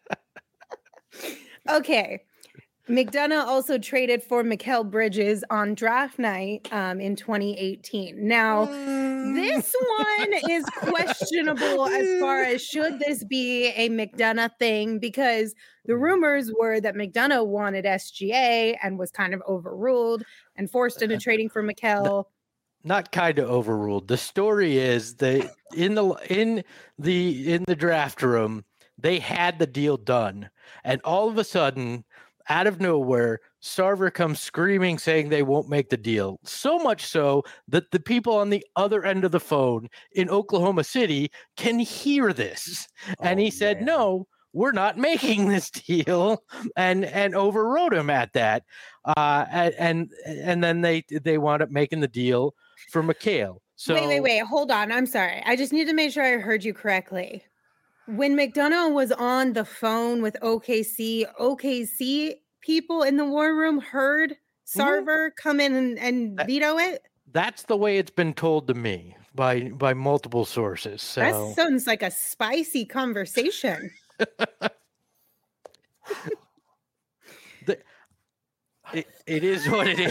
Okay. McDonough also traded for Mikal Bridges on draft night in 2018. Now, this one is questionable as far as should this be a McDonough thing, because the rumors were that McDonough wanted SGA and was kind of overruled and forced into trading for Mikal. Not kind of overruled. The story is that in the draft room, they had the deal done, and all of a sudden, out of nowhere, Sarver comes screaming saying they won't make the deal. So much so that the people on the other end of the phone in Oklahoma City can hear this. And he said, no, we're not making this deal, and overrode him at that. And then they wound up making the deal for Mikal. So wait, hold on. I'm sorry. I just need to make sure I heard you correctly. When McDonough was on the phone with OKC people in the war room heard Sarver come in and veto it? That's the way it's been told to me by multiple sources. So that sounds like a spicy conversation. It is what it is.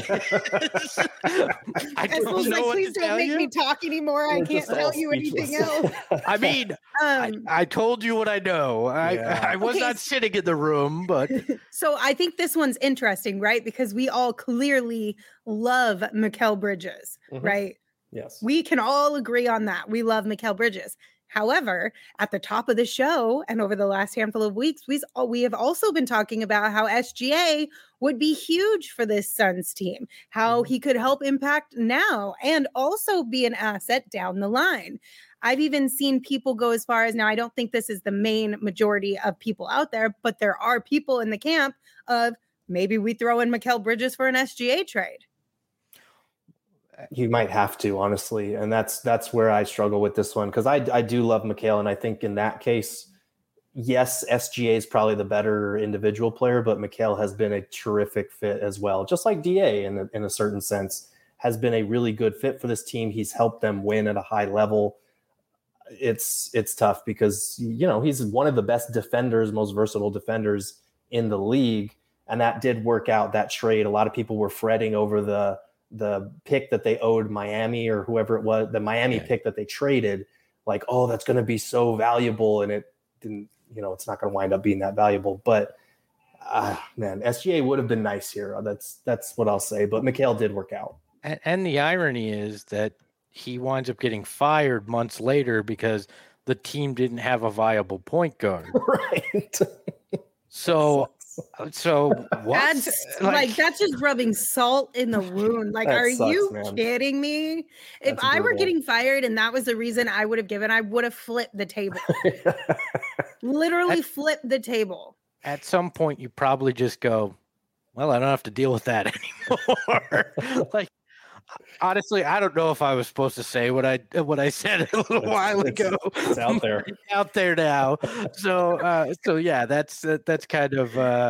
I don't know please don't make me talk anymore. I can't tell you anything else. I mean, I told you what I know. I was not sitting in the room, but so I think this one's interesting, right? Because we all clearly love Mikal Bridges, right? Yes, we can all agree on that. We love Mikal Bridges. However, at the top of the show and over the last handful of weeks, we have also been talking about how SGA would be huge for this Suns team, how he could help impact now and also be an asset down the line. I've even seen people go as far as, now I don't think this is the main majority of people out there, but there are people in the camp of maybe we throw in Mikal Bridges for an SGA trade. You might have to, honestly. And that's where I struggle with this one, because I do love Mikal. And I think in that case, yes, SGA is probably the better individual player, but Mikal has been a terrific fit as well. Just like DA in a certain sense has been a really good fit for this team. He's helped them win at a high level. It's tough because, he's one of the best defenders, most versatile defenders in the league. And that did work out, that trade. A lot of people were fretting over the pick that they owed Miami or whoever it was, the Miami pick that they traded, like, oh, that's going to be so valuable. And it didn't, it's not going to wind up being that valuable, but man, SGA would have been nice here. That's what I'll say, but Mikal did work out. And the irony is that he winds up getting fired months later because the team didn't have a viable point guard. Right. So what? That's just rubbing salt in the wound. Like, are you kidding me? If I were getting fired and that was the reason I would have given, I would have flipped the table. Literally flipped the table. At some point, you probably just go, well, I don't have to deal with that anymore. Honestly, I don't know if I was supposed to say what I said a little while ago. It's out there. It's out there now. So yeah, that's kind of.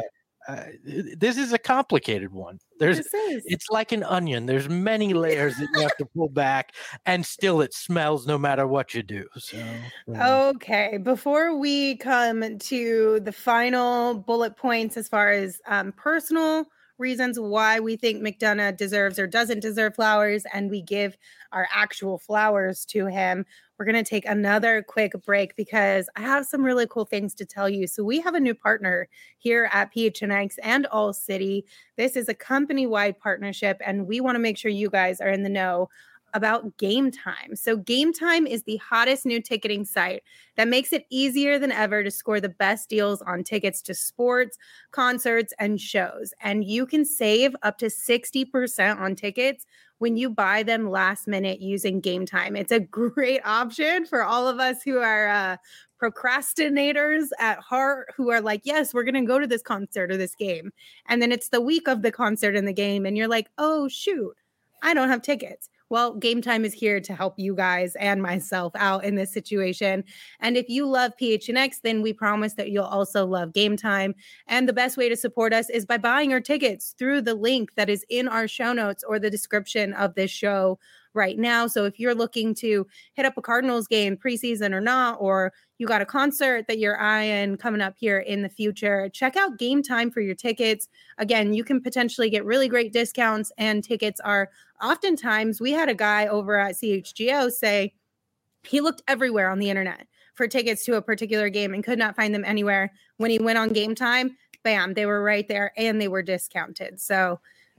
This is a complicated one. It's like an onion. There's many layers that you have to pull back, and still it smells no matter what you do. So okay, before we come to the final bullet points as far as personal reasons why we think McDonough deserves or doesn't deserve flowers, and we give our actual flowers to him, we're going to take another quick break because I have some really cool things to tell you. So we have a new partner here at PHNX and All City. This is a company-wide partnership, and we want to make sure you guys are in the know about Game Time. So Game Time is the hottest new ticketing site that makes it easier than ever to score the best deals on tickets to sports, concerts, and shows. And you can save up to 60% on tickets when you buy them last minute using Game Time. It's a great option for all of us who are procrastinators at heart, who are like, yes, we're going to go to this concert or this game. And then it's the week of the concert and the game. And you're like, oh, shoot, I don't have tickets. Well, Game Time is here to help you guys and myself out in this situation. And if you love PHNX, then we promise that you'll also love Game Time. And the best way to support us is by buying our tickets through the link that is in our show notes or the description of this show right now. So if you're looking to hit up a Cardinals game preseason or not, or you got a concert that you're eyeing coming up here in the future, check out Game Time for your tickets. Again, you can potentially get really great discounts, and tickets are oftentimes, we had a guy over at CHGO say he looked everywhere on the internet for tickets to a particular game and could not find them anywhere. When he went on Game Time, bam, they were right there and they were discounted. So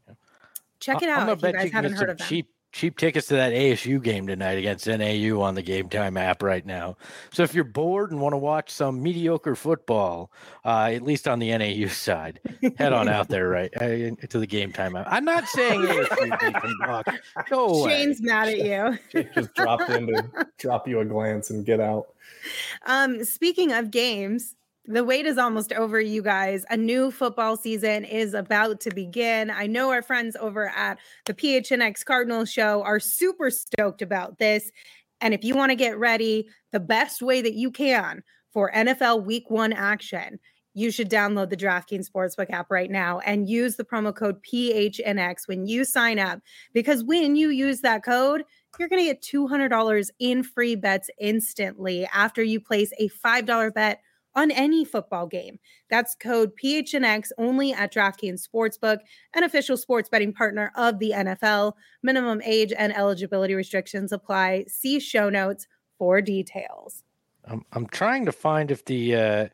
check it out if you guys haven't heard of them. Cheap tickets to that ASU game tonight against NAU on the Game Time app right now. So if you're bored and want to watch some mediocre football, at least on the NAU side, head on out there to the Game Time app. I'm not saying ASU. Go away. Shane's mad at you. Shane just dropped in to drop you a glance and get out. Speaking of games, the wait is almost over, you guys. A new football season is about to begin. I know our friends over at the PHNX Cardinals show are super stoked about this. And if you want to get ready the best way that you can for NFL Week 1 action, you should download the DraftKings Sportsbook app right now and use the promo code PHNX when you sign up. Because when you use that code, you're going to get $200 in free bets instantly after you place a $5 bet on any football game. That's code PHNX only at DraftKings Sportsbook, an official sports betting partner of the NFL. Minimum age and eligibility restrictions apply. See show notes for details. I'm trying to find if the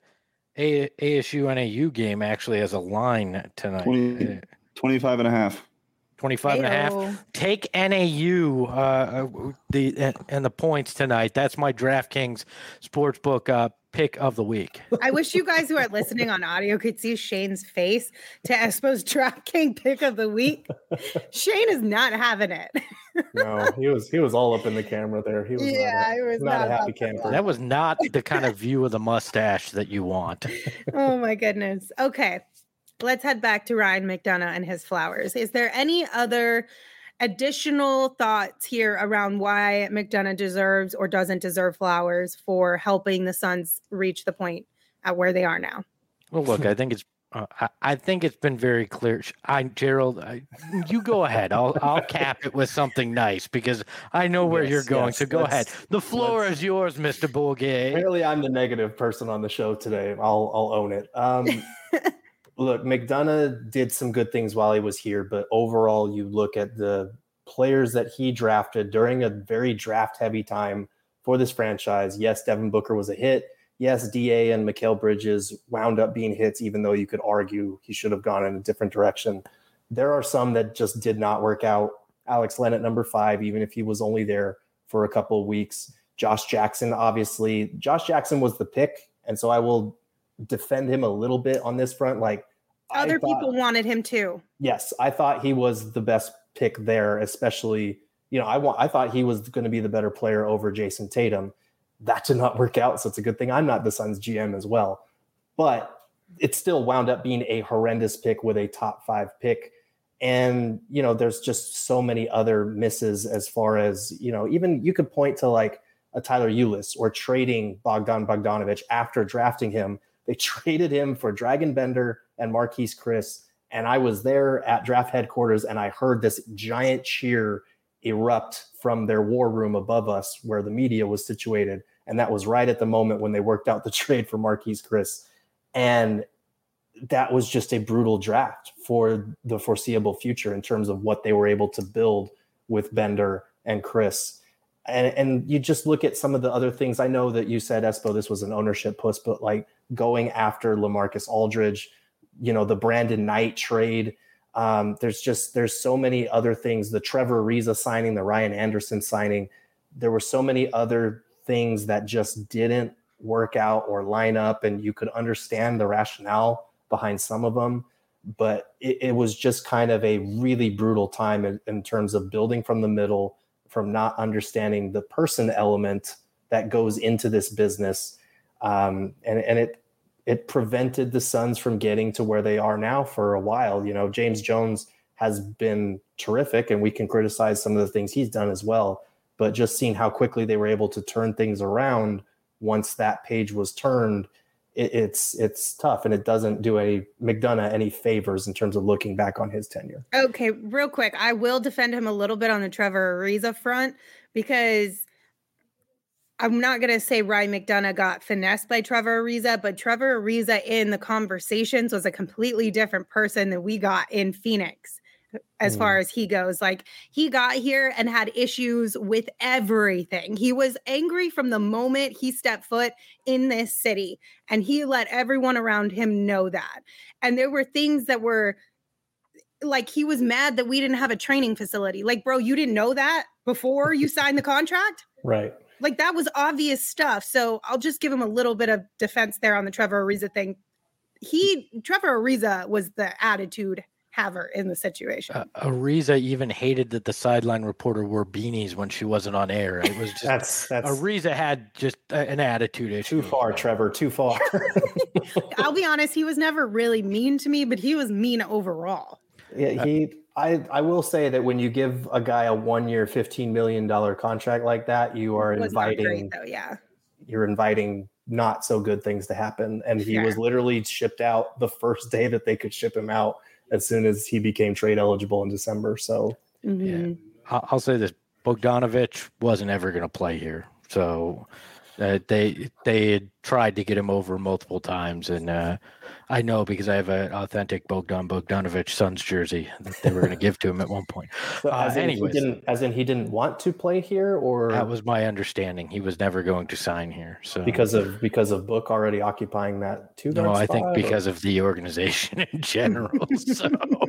ASU NAU game actually has a line tonight. 25 and a half. 25 and a half. Take NAU and the points tonight. That's my DraftKings Sportsbook pick of the week. I wish you guys who are listening on audio could see Shane's face to Espo's DraftKings pick of the week. Shane is not having it. No, he was all up in the camera there. He was not a happy camper. That was not the kind of view of the mustache that you want. Oh my goodness. Okay. Let's head back to Ryan McDonough and his flowers. Is there any other additional thoughts here around why McDonough deserves or doesn't deserve flowers for helping the Suns reach the point at where they are now? Well, look, I think it's been very clear. Gerald, you go ahead. I'll cap it with something nice because I know where you're going. So go ahead. The floor is yours, Mr. Bourget. Apparently, I'm the negative person on the show today. I'll own it. Look, McDonough did some good things while he was here, but overall, you look at the players that he drafted during a very draft-heavy time for this franchise. Yes, Devin Booker was a hit. Yes, DA and Mikal Bridges wound up being hits, even though you could argue he should have gone in a different direction. There are some that just did not work out. Alex Len at number 5, even if he was only there for a couple of weeks. Josh Jackson, obviously. Josh Jackson was the pick, and so I will defend him a little bit on this front. Like other people wanted him too. Yes, I thought he was the best pick there, especially, I thought he was going to be the better player over Jason Tatum. That did not work out, so it's a good thing I'm not the Suns GM as well. But it still wound up being a horrendous pick with a top 5 pick. And, there's just so many other misses as far as, even you could point to like a Tyler Ulis or trading Bogdan Bogdanovic after drafting him. They traded him for Dragan Bender and Marquise Chris. And I was there at draft headquarters and I heard this giant cheer erupt from their war room above us where the media was situated. And that was right at the moment when they worked out the trade for Marquise Chris. And that was just a brutal draft for the foreseeable future in terms of what they were able to build with Bender and Chris. And you just look at some of the other things. I know that you said, Espo, this was an ownership push, but like going after LaMarcus Aldridge, the Brandon Knight trade. There's so many other things. The Trevor Ariza signing, the Ryan Anderson signing. There were so many other things that just didn't work out or line up, and you could understand the rationale behind some of them. But it was just kind of a really brutal time in terms of building from the middle, from not understanding the person element that goes into this business. And it prevented the Suns from getting to where they are now for a while. James Jones has been terrific, and we can criticize some of the things he's done as well. But just seeing how quickly they were able to turn things around once that page was turned, it's tough, and it doesn't do McDonough any favors in terms of looking back on his tenure. Okay, real quick, I will defend him a little bit on the Trevor Ariza front, because I'm not going to say Ryan McDonough got finessed by Trevor Ariza, but Trevor Ariza in the conversations was a completely different person than we got in Phoenix as far as he goes. Like, he got here and had issues with everything. He was angry from the moment he stepped foot in this city, and he let everyone around him know that. And there were things that were like, he was mad that we didn't have a training facility. Like, bro, you didn't know that before you signed the contract? Right. Like, that was obvious stuff. So I'll just give him a little bit of defense there on the Trevor Ariza thing. Trevor Ariza was the attitude haver in the situation. Ariza even hated that the sideline reporter wore beanies when she wasn't on air. It was just that's Ariza had just an attitude issue. Too far, Trevor. Too far. I'll be honest, he was never really mean to me, but he was mean overall. Yeah, I will say that when you give a guy a 1-year, $15 million contract like that, you are inviting. Not great, though, yeah. You're inviting not so good things to happen, and he was literally shipped out the first day that they could ship him out, as soon as he became trade eligible in December. So, yeah. I'll say this: Bogdanovic wasn't ever going to play here. So they had tried to get him over multiple times, and I know because I have an authentic Bogdanovic Suns jersey that they were going to give to him at one point. So anyways, he didn't want to play here, or that was my understanding. He was never going to sign here. So because of Book already occupying that two. No, I think because of the organization in general. So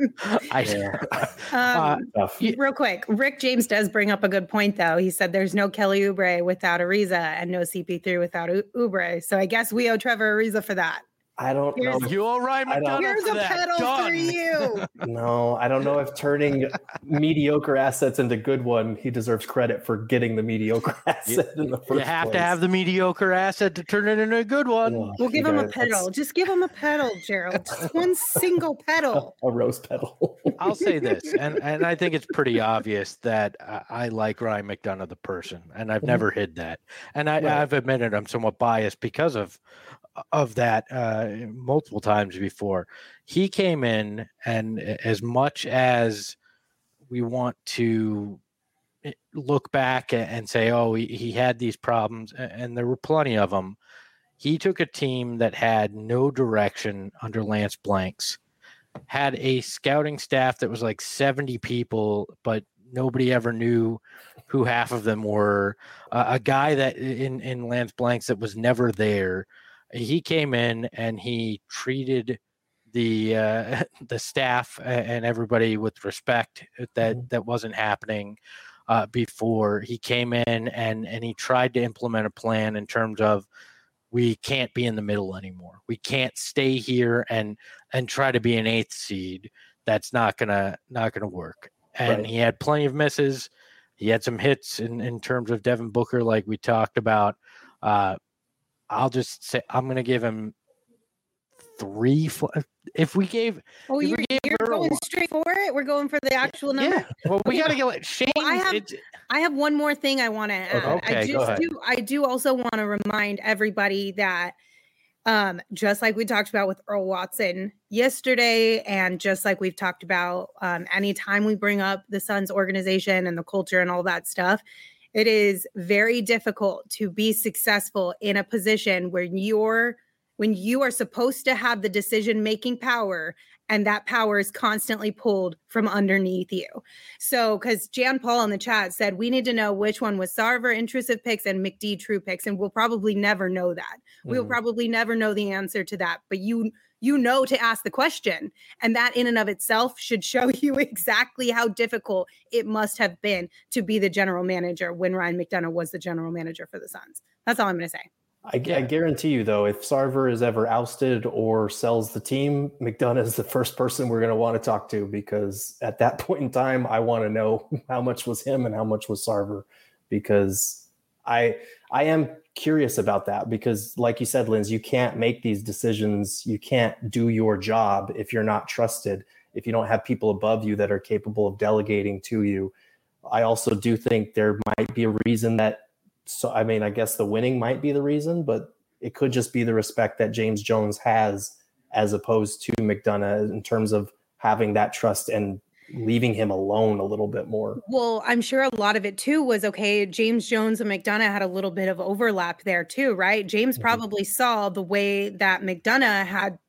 real quick, Rick James does bring up a good point, though. He said there's no Kelly Oubre without Ariza and no CP3 without Oubre. So I guess we owe Trevor Ariza for that. I don't know. You all right, McDonough? Here's a pedal for you. No, I don't know if turning mediocre assets into good one, he deserves credit for getting the mediocre asset in the first place. You have to have the mediocre asset to turn it into a good one. We'll give him a pedal. Just give him a pedal, Gerald. Just one single pedal. A rose pedal. I'll say this, and I think it's pretty obvious that I like Ryan McDonough, the person, and I've never hid that. And I've admitted I'm somewhat biased because of that multiple times before. He came in, and as much as we want to look back and say, oh, he had these problems, and there were plenty of them, he took a team that had no direction under Lance Blanks, had a scouting staff that was like 70 people, but nobody ever knew who half of them were, a guy that in Lance Blanks that was never there. He came in and he treated the staff and everybody with respect that wasn't happening before. He came in and he tried to implement a plan in terms of, we can't be in the middle anymore. We can't stay here and try to be an 8th seed. That's not gonna work. And He had plenty of misses. He had some hits in terms of Devin Booker, like we talked about. I'll just say I'm going to give him 3. If we gave, Oh, if you're, we gave you're Earl going one- straight for it. We're going for the actual number. yeah. Well, we got to go. Shane, I have one more thing I want to add. Okay, go ahead. I do also want to remind everybody that just like we talked about with Earl Watson yesterday, and just like we've talked about anytime we bring up the Suns organization and the culture and all that stuff, it is very difficult to be successful in a position where when you are supposed to have the decision-making power, and that power is constantly pulled from underneath you. So, because Jan Paul in the chat said, we need to know which one was Sarver intrusive picks and McD true picks, and we'll probably never know that. We'll probably never know the answer to that, but you know to ask the question. And that in and of itself should show you exactly how difficult it must have been to be the general manager when Ryan McDonough was the general manager for the Suns. That's all I'm going to say. I guarantee you, though, if Sarver is ever ousted or sells the team, McDonough is the first person we're going to want to talk to, because at that point in time, I want to know how much was him and how much was Sarver, because I am curious about that, because like you said, Linz, you can't make these decisions. You can't do your job if you're not trusted, if you don't have people above you that are capable of delegating to you. I also do think there might be a reason that, so, I mean, I guess the winning might be the reason, but it could just be the respect that James Jones has as opposed to McDonough in terms of having that trust and leaving him alone a little bit more. Well, I'm sure a lot of it too was, okay, James Jones and McDonough had a little bit of overlap there too, right? James probably saw the way that McDonough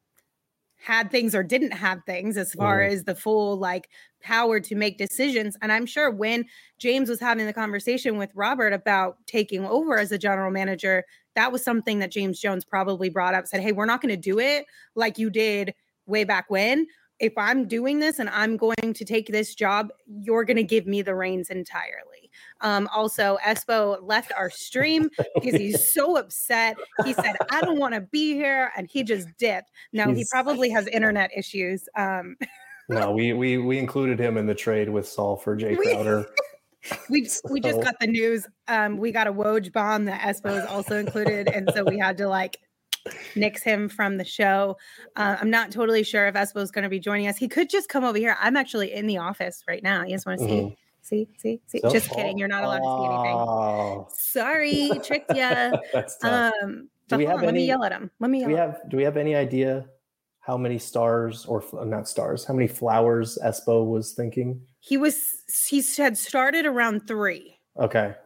had things or didn't have things as far as the full like power to make decisions. And I'm sure when James was having the conversation with Robert about taking over as a general manager, that was something that James Jones probably brought up, said, hey, we're not going to do it like you did way back when. If I'm doing this and I'm going to take this job, you're going to give me the reins entirely. Also, Espo left our stream because he's so upset. He said, I don't want to be here. And he just dipped. No, he probably has internet issues. No, we included him in the trade with Saul for Jay Crowder. We just got the news. We got a Woj bomb that Espo is also included. And so we had to like nix him from the show. I'm not totally sure if Espo is going to be joining us. He could just come over here. I'm actually in the office right now. You just want to see? See? So, just kidding. You're not allowed to see anything. Sorry, tricked ya. That's tough. Let me yell at him. Do we have any idea how many stars, or not stars, how many flowers Espo was thinking? He had started around 3. Okay.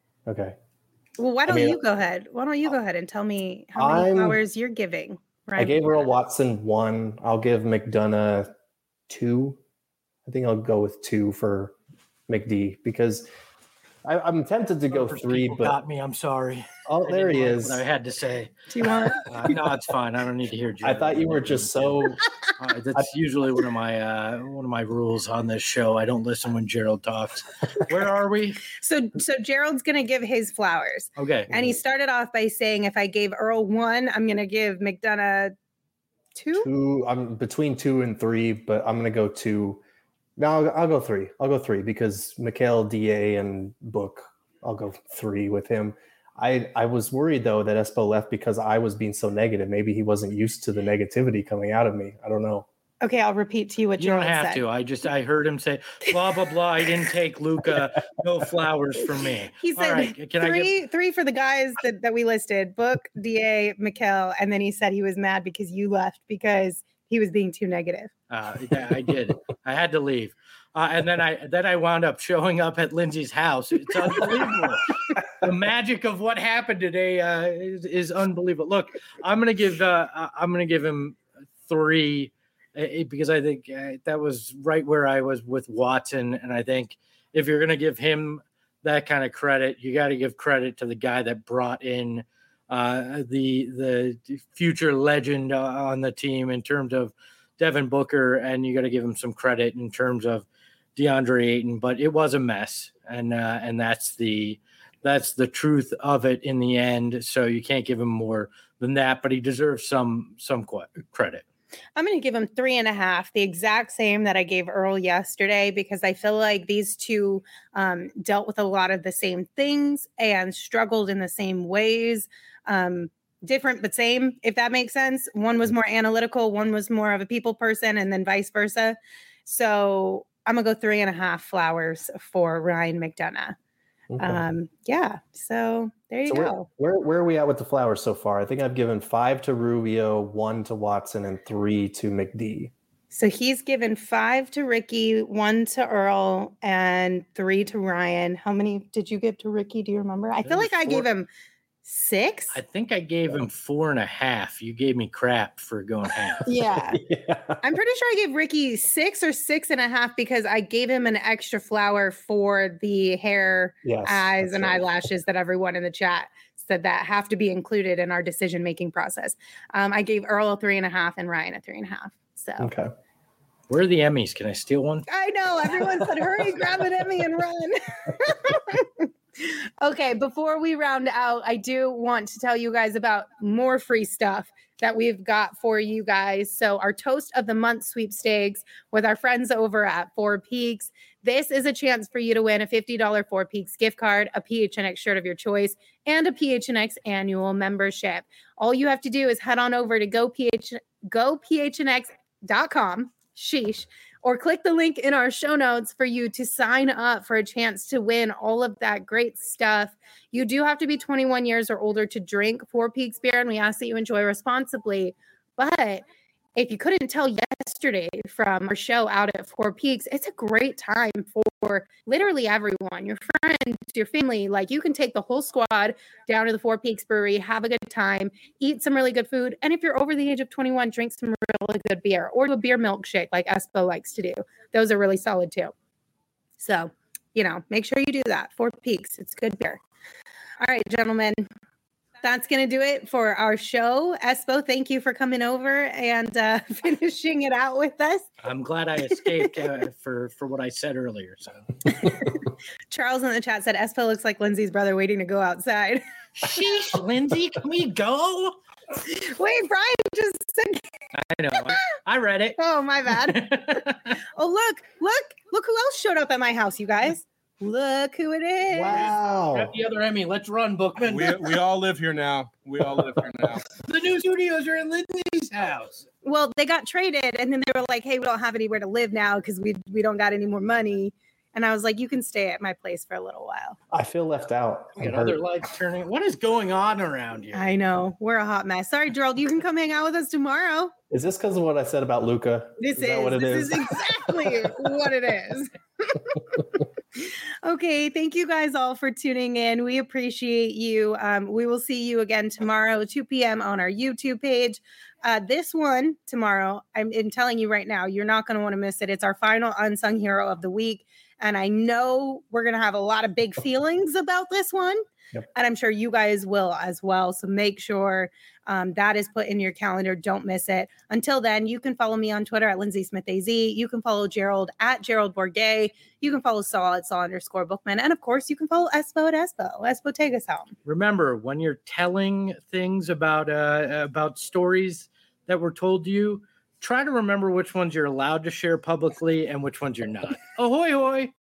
Well, why don't you go ahead? Why don't you go ahead and tell me how many flowers you're giving? Right. I gave Earl Watson 1. I'll give McDonough 2. I think I'll go with 2 for McD, because I'm tempted to go 3, but got me. I'm sorry. Oh, there he is. I had to say. Do you want? No, it's fine. I don't need to hear. I thought you were just so. That's usually one of my rules on this show. I don't listen when Gerald talks. Where are we? So Gerald's gonna give his flowers. Okay. And he started off by saying, if I gave Earl 1, I'm gonna give McDonough 2. 2. I'm between 2 and 3, but I'm gonna go 2. No, I'll go 3. I'll go 3 because Mikal, DA, and Book. I'll go 3 with him. I was worried though that Espo left because I was being so negative. Maybe he wasn't used to the negativity coming out of me. I don't know. Okay, I'll repeat to you what Gerald said. You don't have to. I heard him say blah blah blah. I didn't take Luka. No flowers for me. He said three for the guys that we listed: Book, DA, Mikal, and then he said he was mad because you left because he was being too negative. I did. I had to leave. And then I wound up showing up at Lindsay's house. It's unbelievable. The magic of what happened today is unbelievable. Look, I'm gonna give him 3 because I think that was right where I was with Watson, and I think if you're gonna give him that kind of credit, you got to give credit to the guy that brought in the future legend on the team in terms of Devin Booker, and you got to give him some credit in terms of DeAndre Ayton. But it was a mess, and that's the truth of it in the end. So you can't give him more than that, but he deserves some credit. I'm going to give him 3.5, the exact same that I gave Earl yesterday, because I feel like these two dealt with a lot of the same things and struggled in the same ways. different but same, if that makes sense. One was more analytical, one was more of a people person, and then vice versa. So I'm gonna go 3.5 flowers for Ryan McDonough. Okay. Yeah, so there you go. Where are we at with the flowers so far? I think I've given 5 to Rubio, 1 to Watson, and 3 to McD. So he's given 5 to Ricky, 1 to Earl, and 3 to Ryan. How many did you give to Ricky? Do you remember? I feel like I gave him 6. I think I gave him 4.5. You gave me crap for going half. Yeah. I'm pretty sure I gave Ricky 6 or 6.5 because I gave him an extra flower for the hair, eyes, and eyelashes that everyone in the chat said that have to be included in our decision-making process. I gave Earl a 3.5 and Ryan a 3.5. So okay. Where are the Emmys? Can I steal one? I know. Everyone said, hurry, grab an Emmy and run. Okay, before we round out, I do want to tell you guys about more free stuff that we've got for you guys. So our Toast of the Month sweepstakes with our friends over at Four Peaks. This is a chance for you to win a $50 Four Peaks gift card, a PHNX shirt of your choice, and a PHNX annual membership. All you have to do is head on over to gophnx.com, sheesh, or click the link in our show notes for you to sign up for a chance to win all of that great stuff. You do have to be 21 years or older to drink Four Peaks beer, and we ask that you enjoy responsibly. But if you couldn't tell yesterday from our show out at Four Peaks, it's a great time for literally everyone, your friends, your family. Like, you can take the whole squad down to the Four Peaks Brewery, have a good time, eat some really good food. And if you're over the age of 21, drink some really good beer or do a beer milkshake like Espo likes to do. Those are really solid too. So, make sure you do that. Four Peaks, it's good beer. All right, gentlemen. That's going to do it for our show. Espo, thank you for coming over and finishing it out with us. I'm glad I escaped for what I said earlier. So, Charles in the chat said Espo looks like Lindsay's brother waiting to go outside. Sheesh, Lindsay, can we go? Wait, Brian just said. I know. I read it. Oh, my bad. Oh, look who else showed up at my house, you guys. Look who it is. Wow. Grab the other Emmy. Let's run, Bookman. We all live here now. The new studios are in Lindsay's house. Well, they got traded, and then they were like, hey, we don't have anywhere to live now because we don't got any more money. And I was like, you can stay at my place for a little while. I feel left out. We got other lights turning. What is going on around here? I know. We're a hot mess. Sorry, Gerald. You can come hang out with us tomorrow. Is this because of what I said about Luca? This is exactly what it is. Okay. Thank you guys all for tuning in. We appreciate you. We will see you again tomorrow, 2 p.m. on our YouTube page. This one tomorrow, I'm telling you right now, you're not going to want to miss it. It's our final Unsung Hero of the Week. And I know we're going to have a lot of big feelings about this one. Yep. And I'm sure you guys will as well. So make sure that is put in your calendar. Don't miss it. Until then, you can follow me on Twitter at Lindsay Smith AZ. You can follow Gerald at Gerald Bourget. You can follow Saul at Saul_Bookman. And of course, you can follow Espo at Espo. Espo, take us home. Remember, when you're telling things about stories that were told to you, try to remember which ones you're allowed to share publicly and which ones you're not. Ahoy, hoy.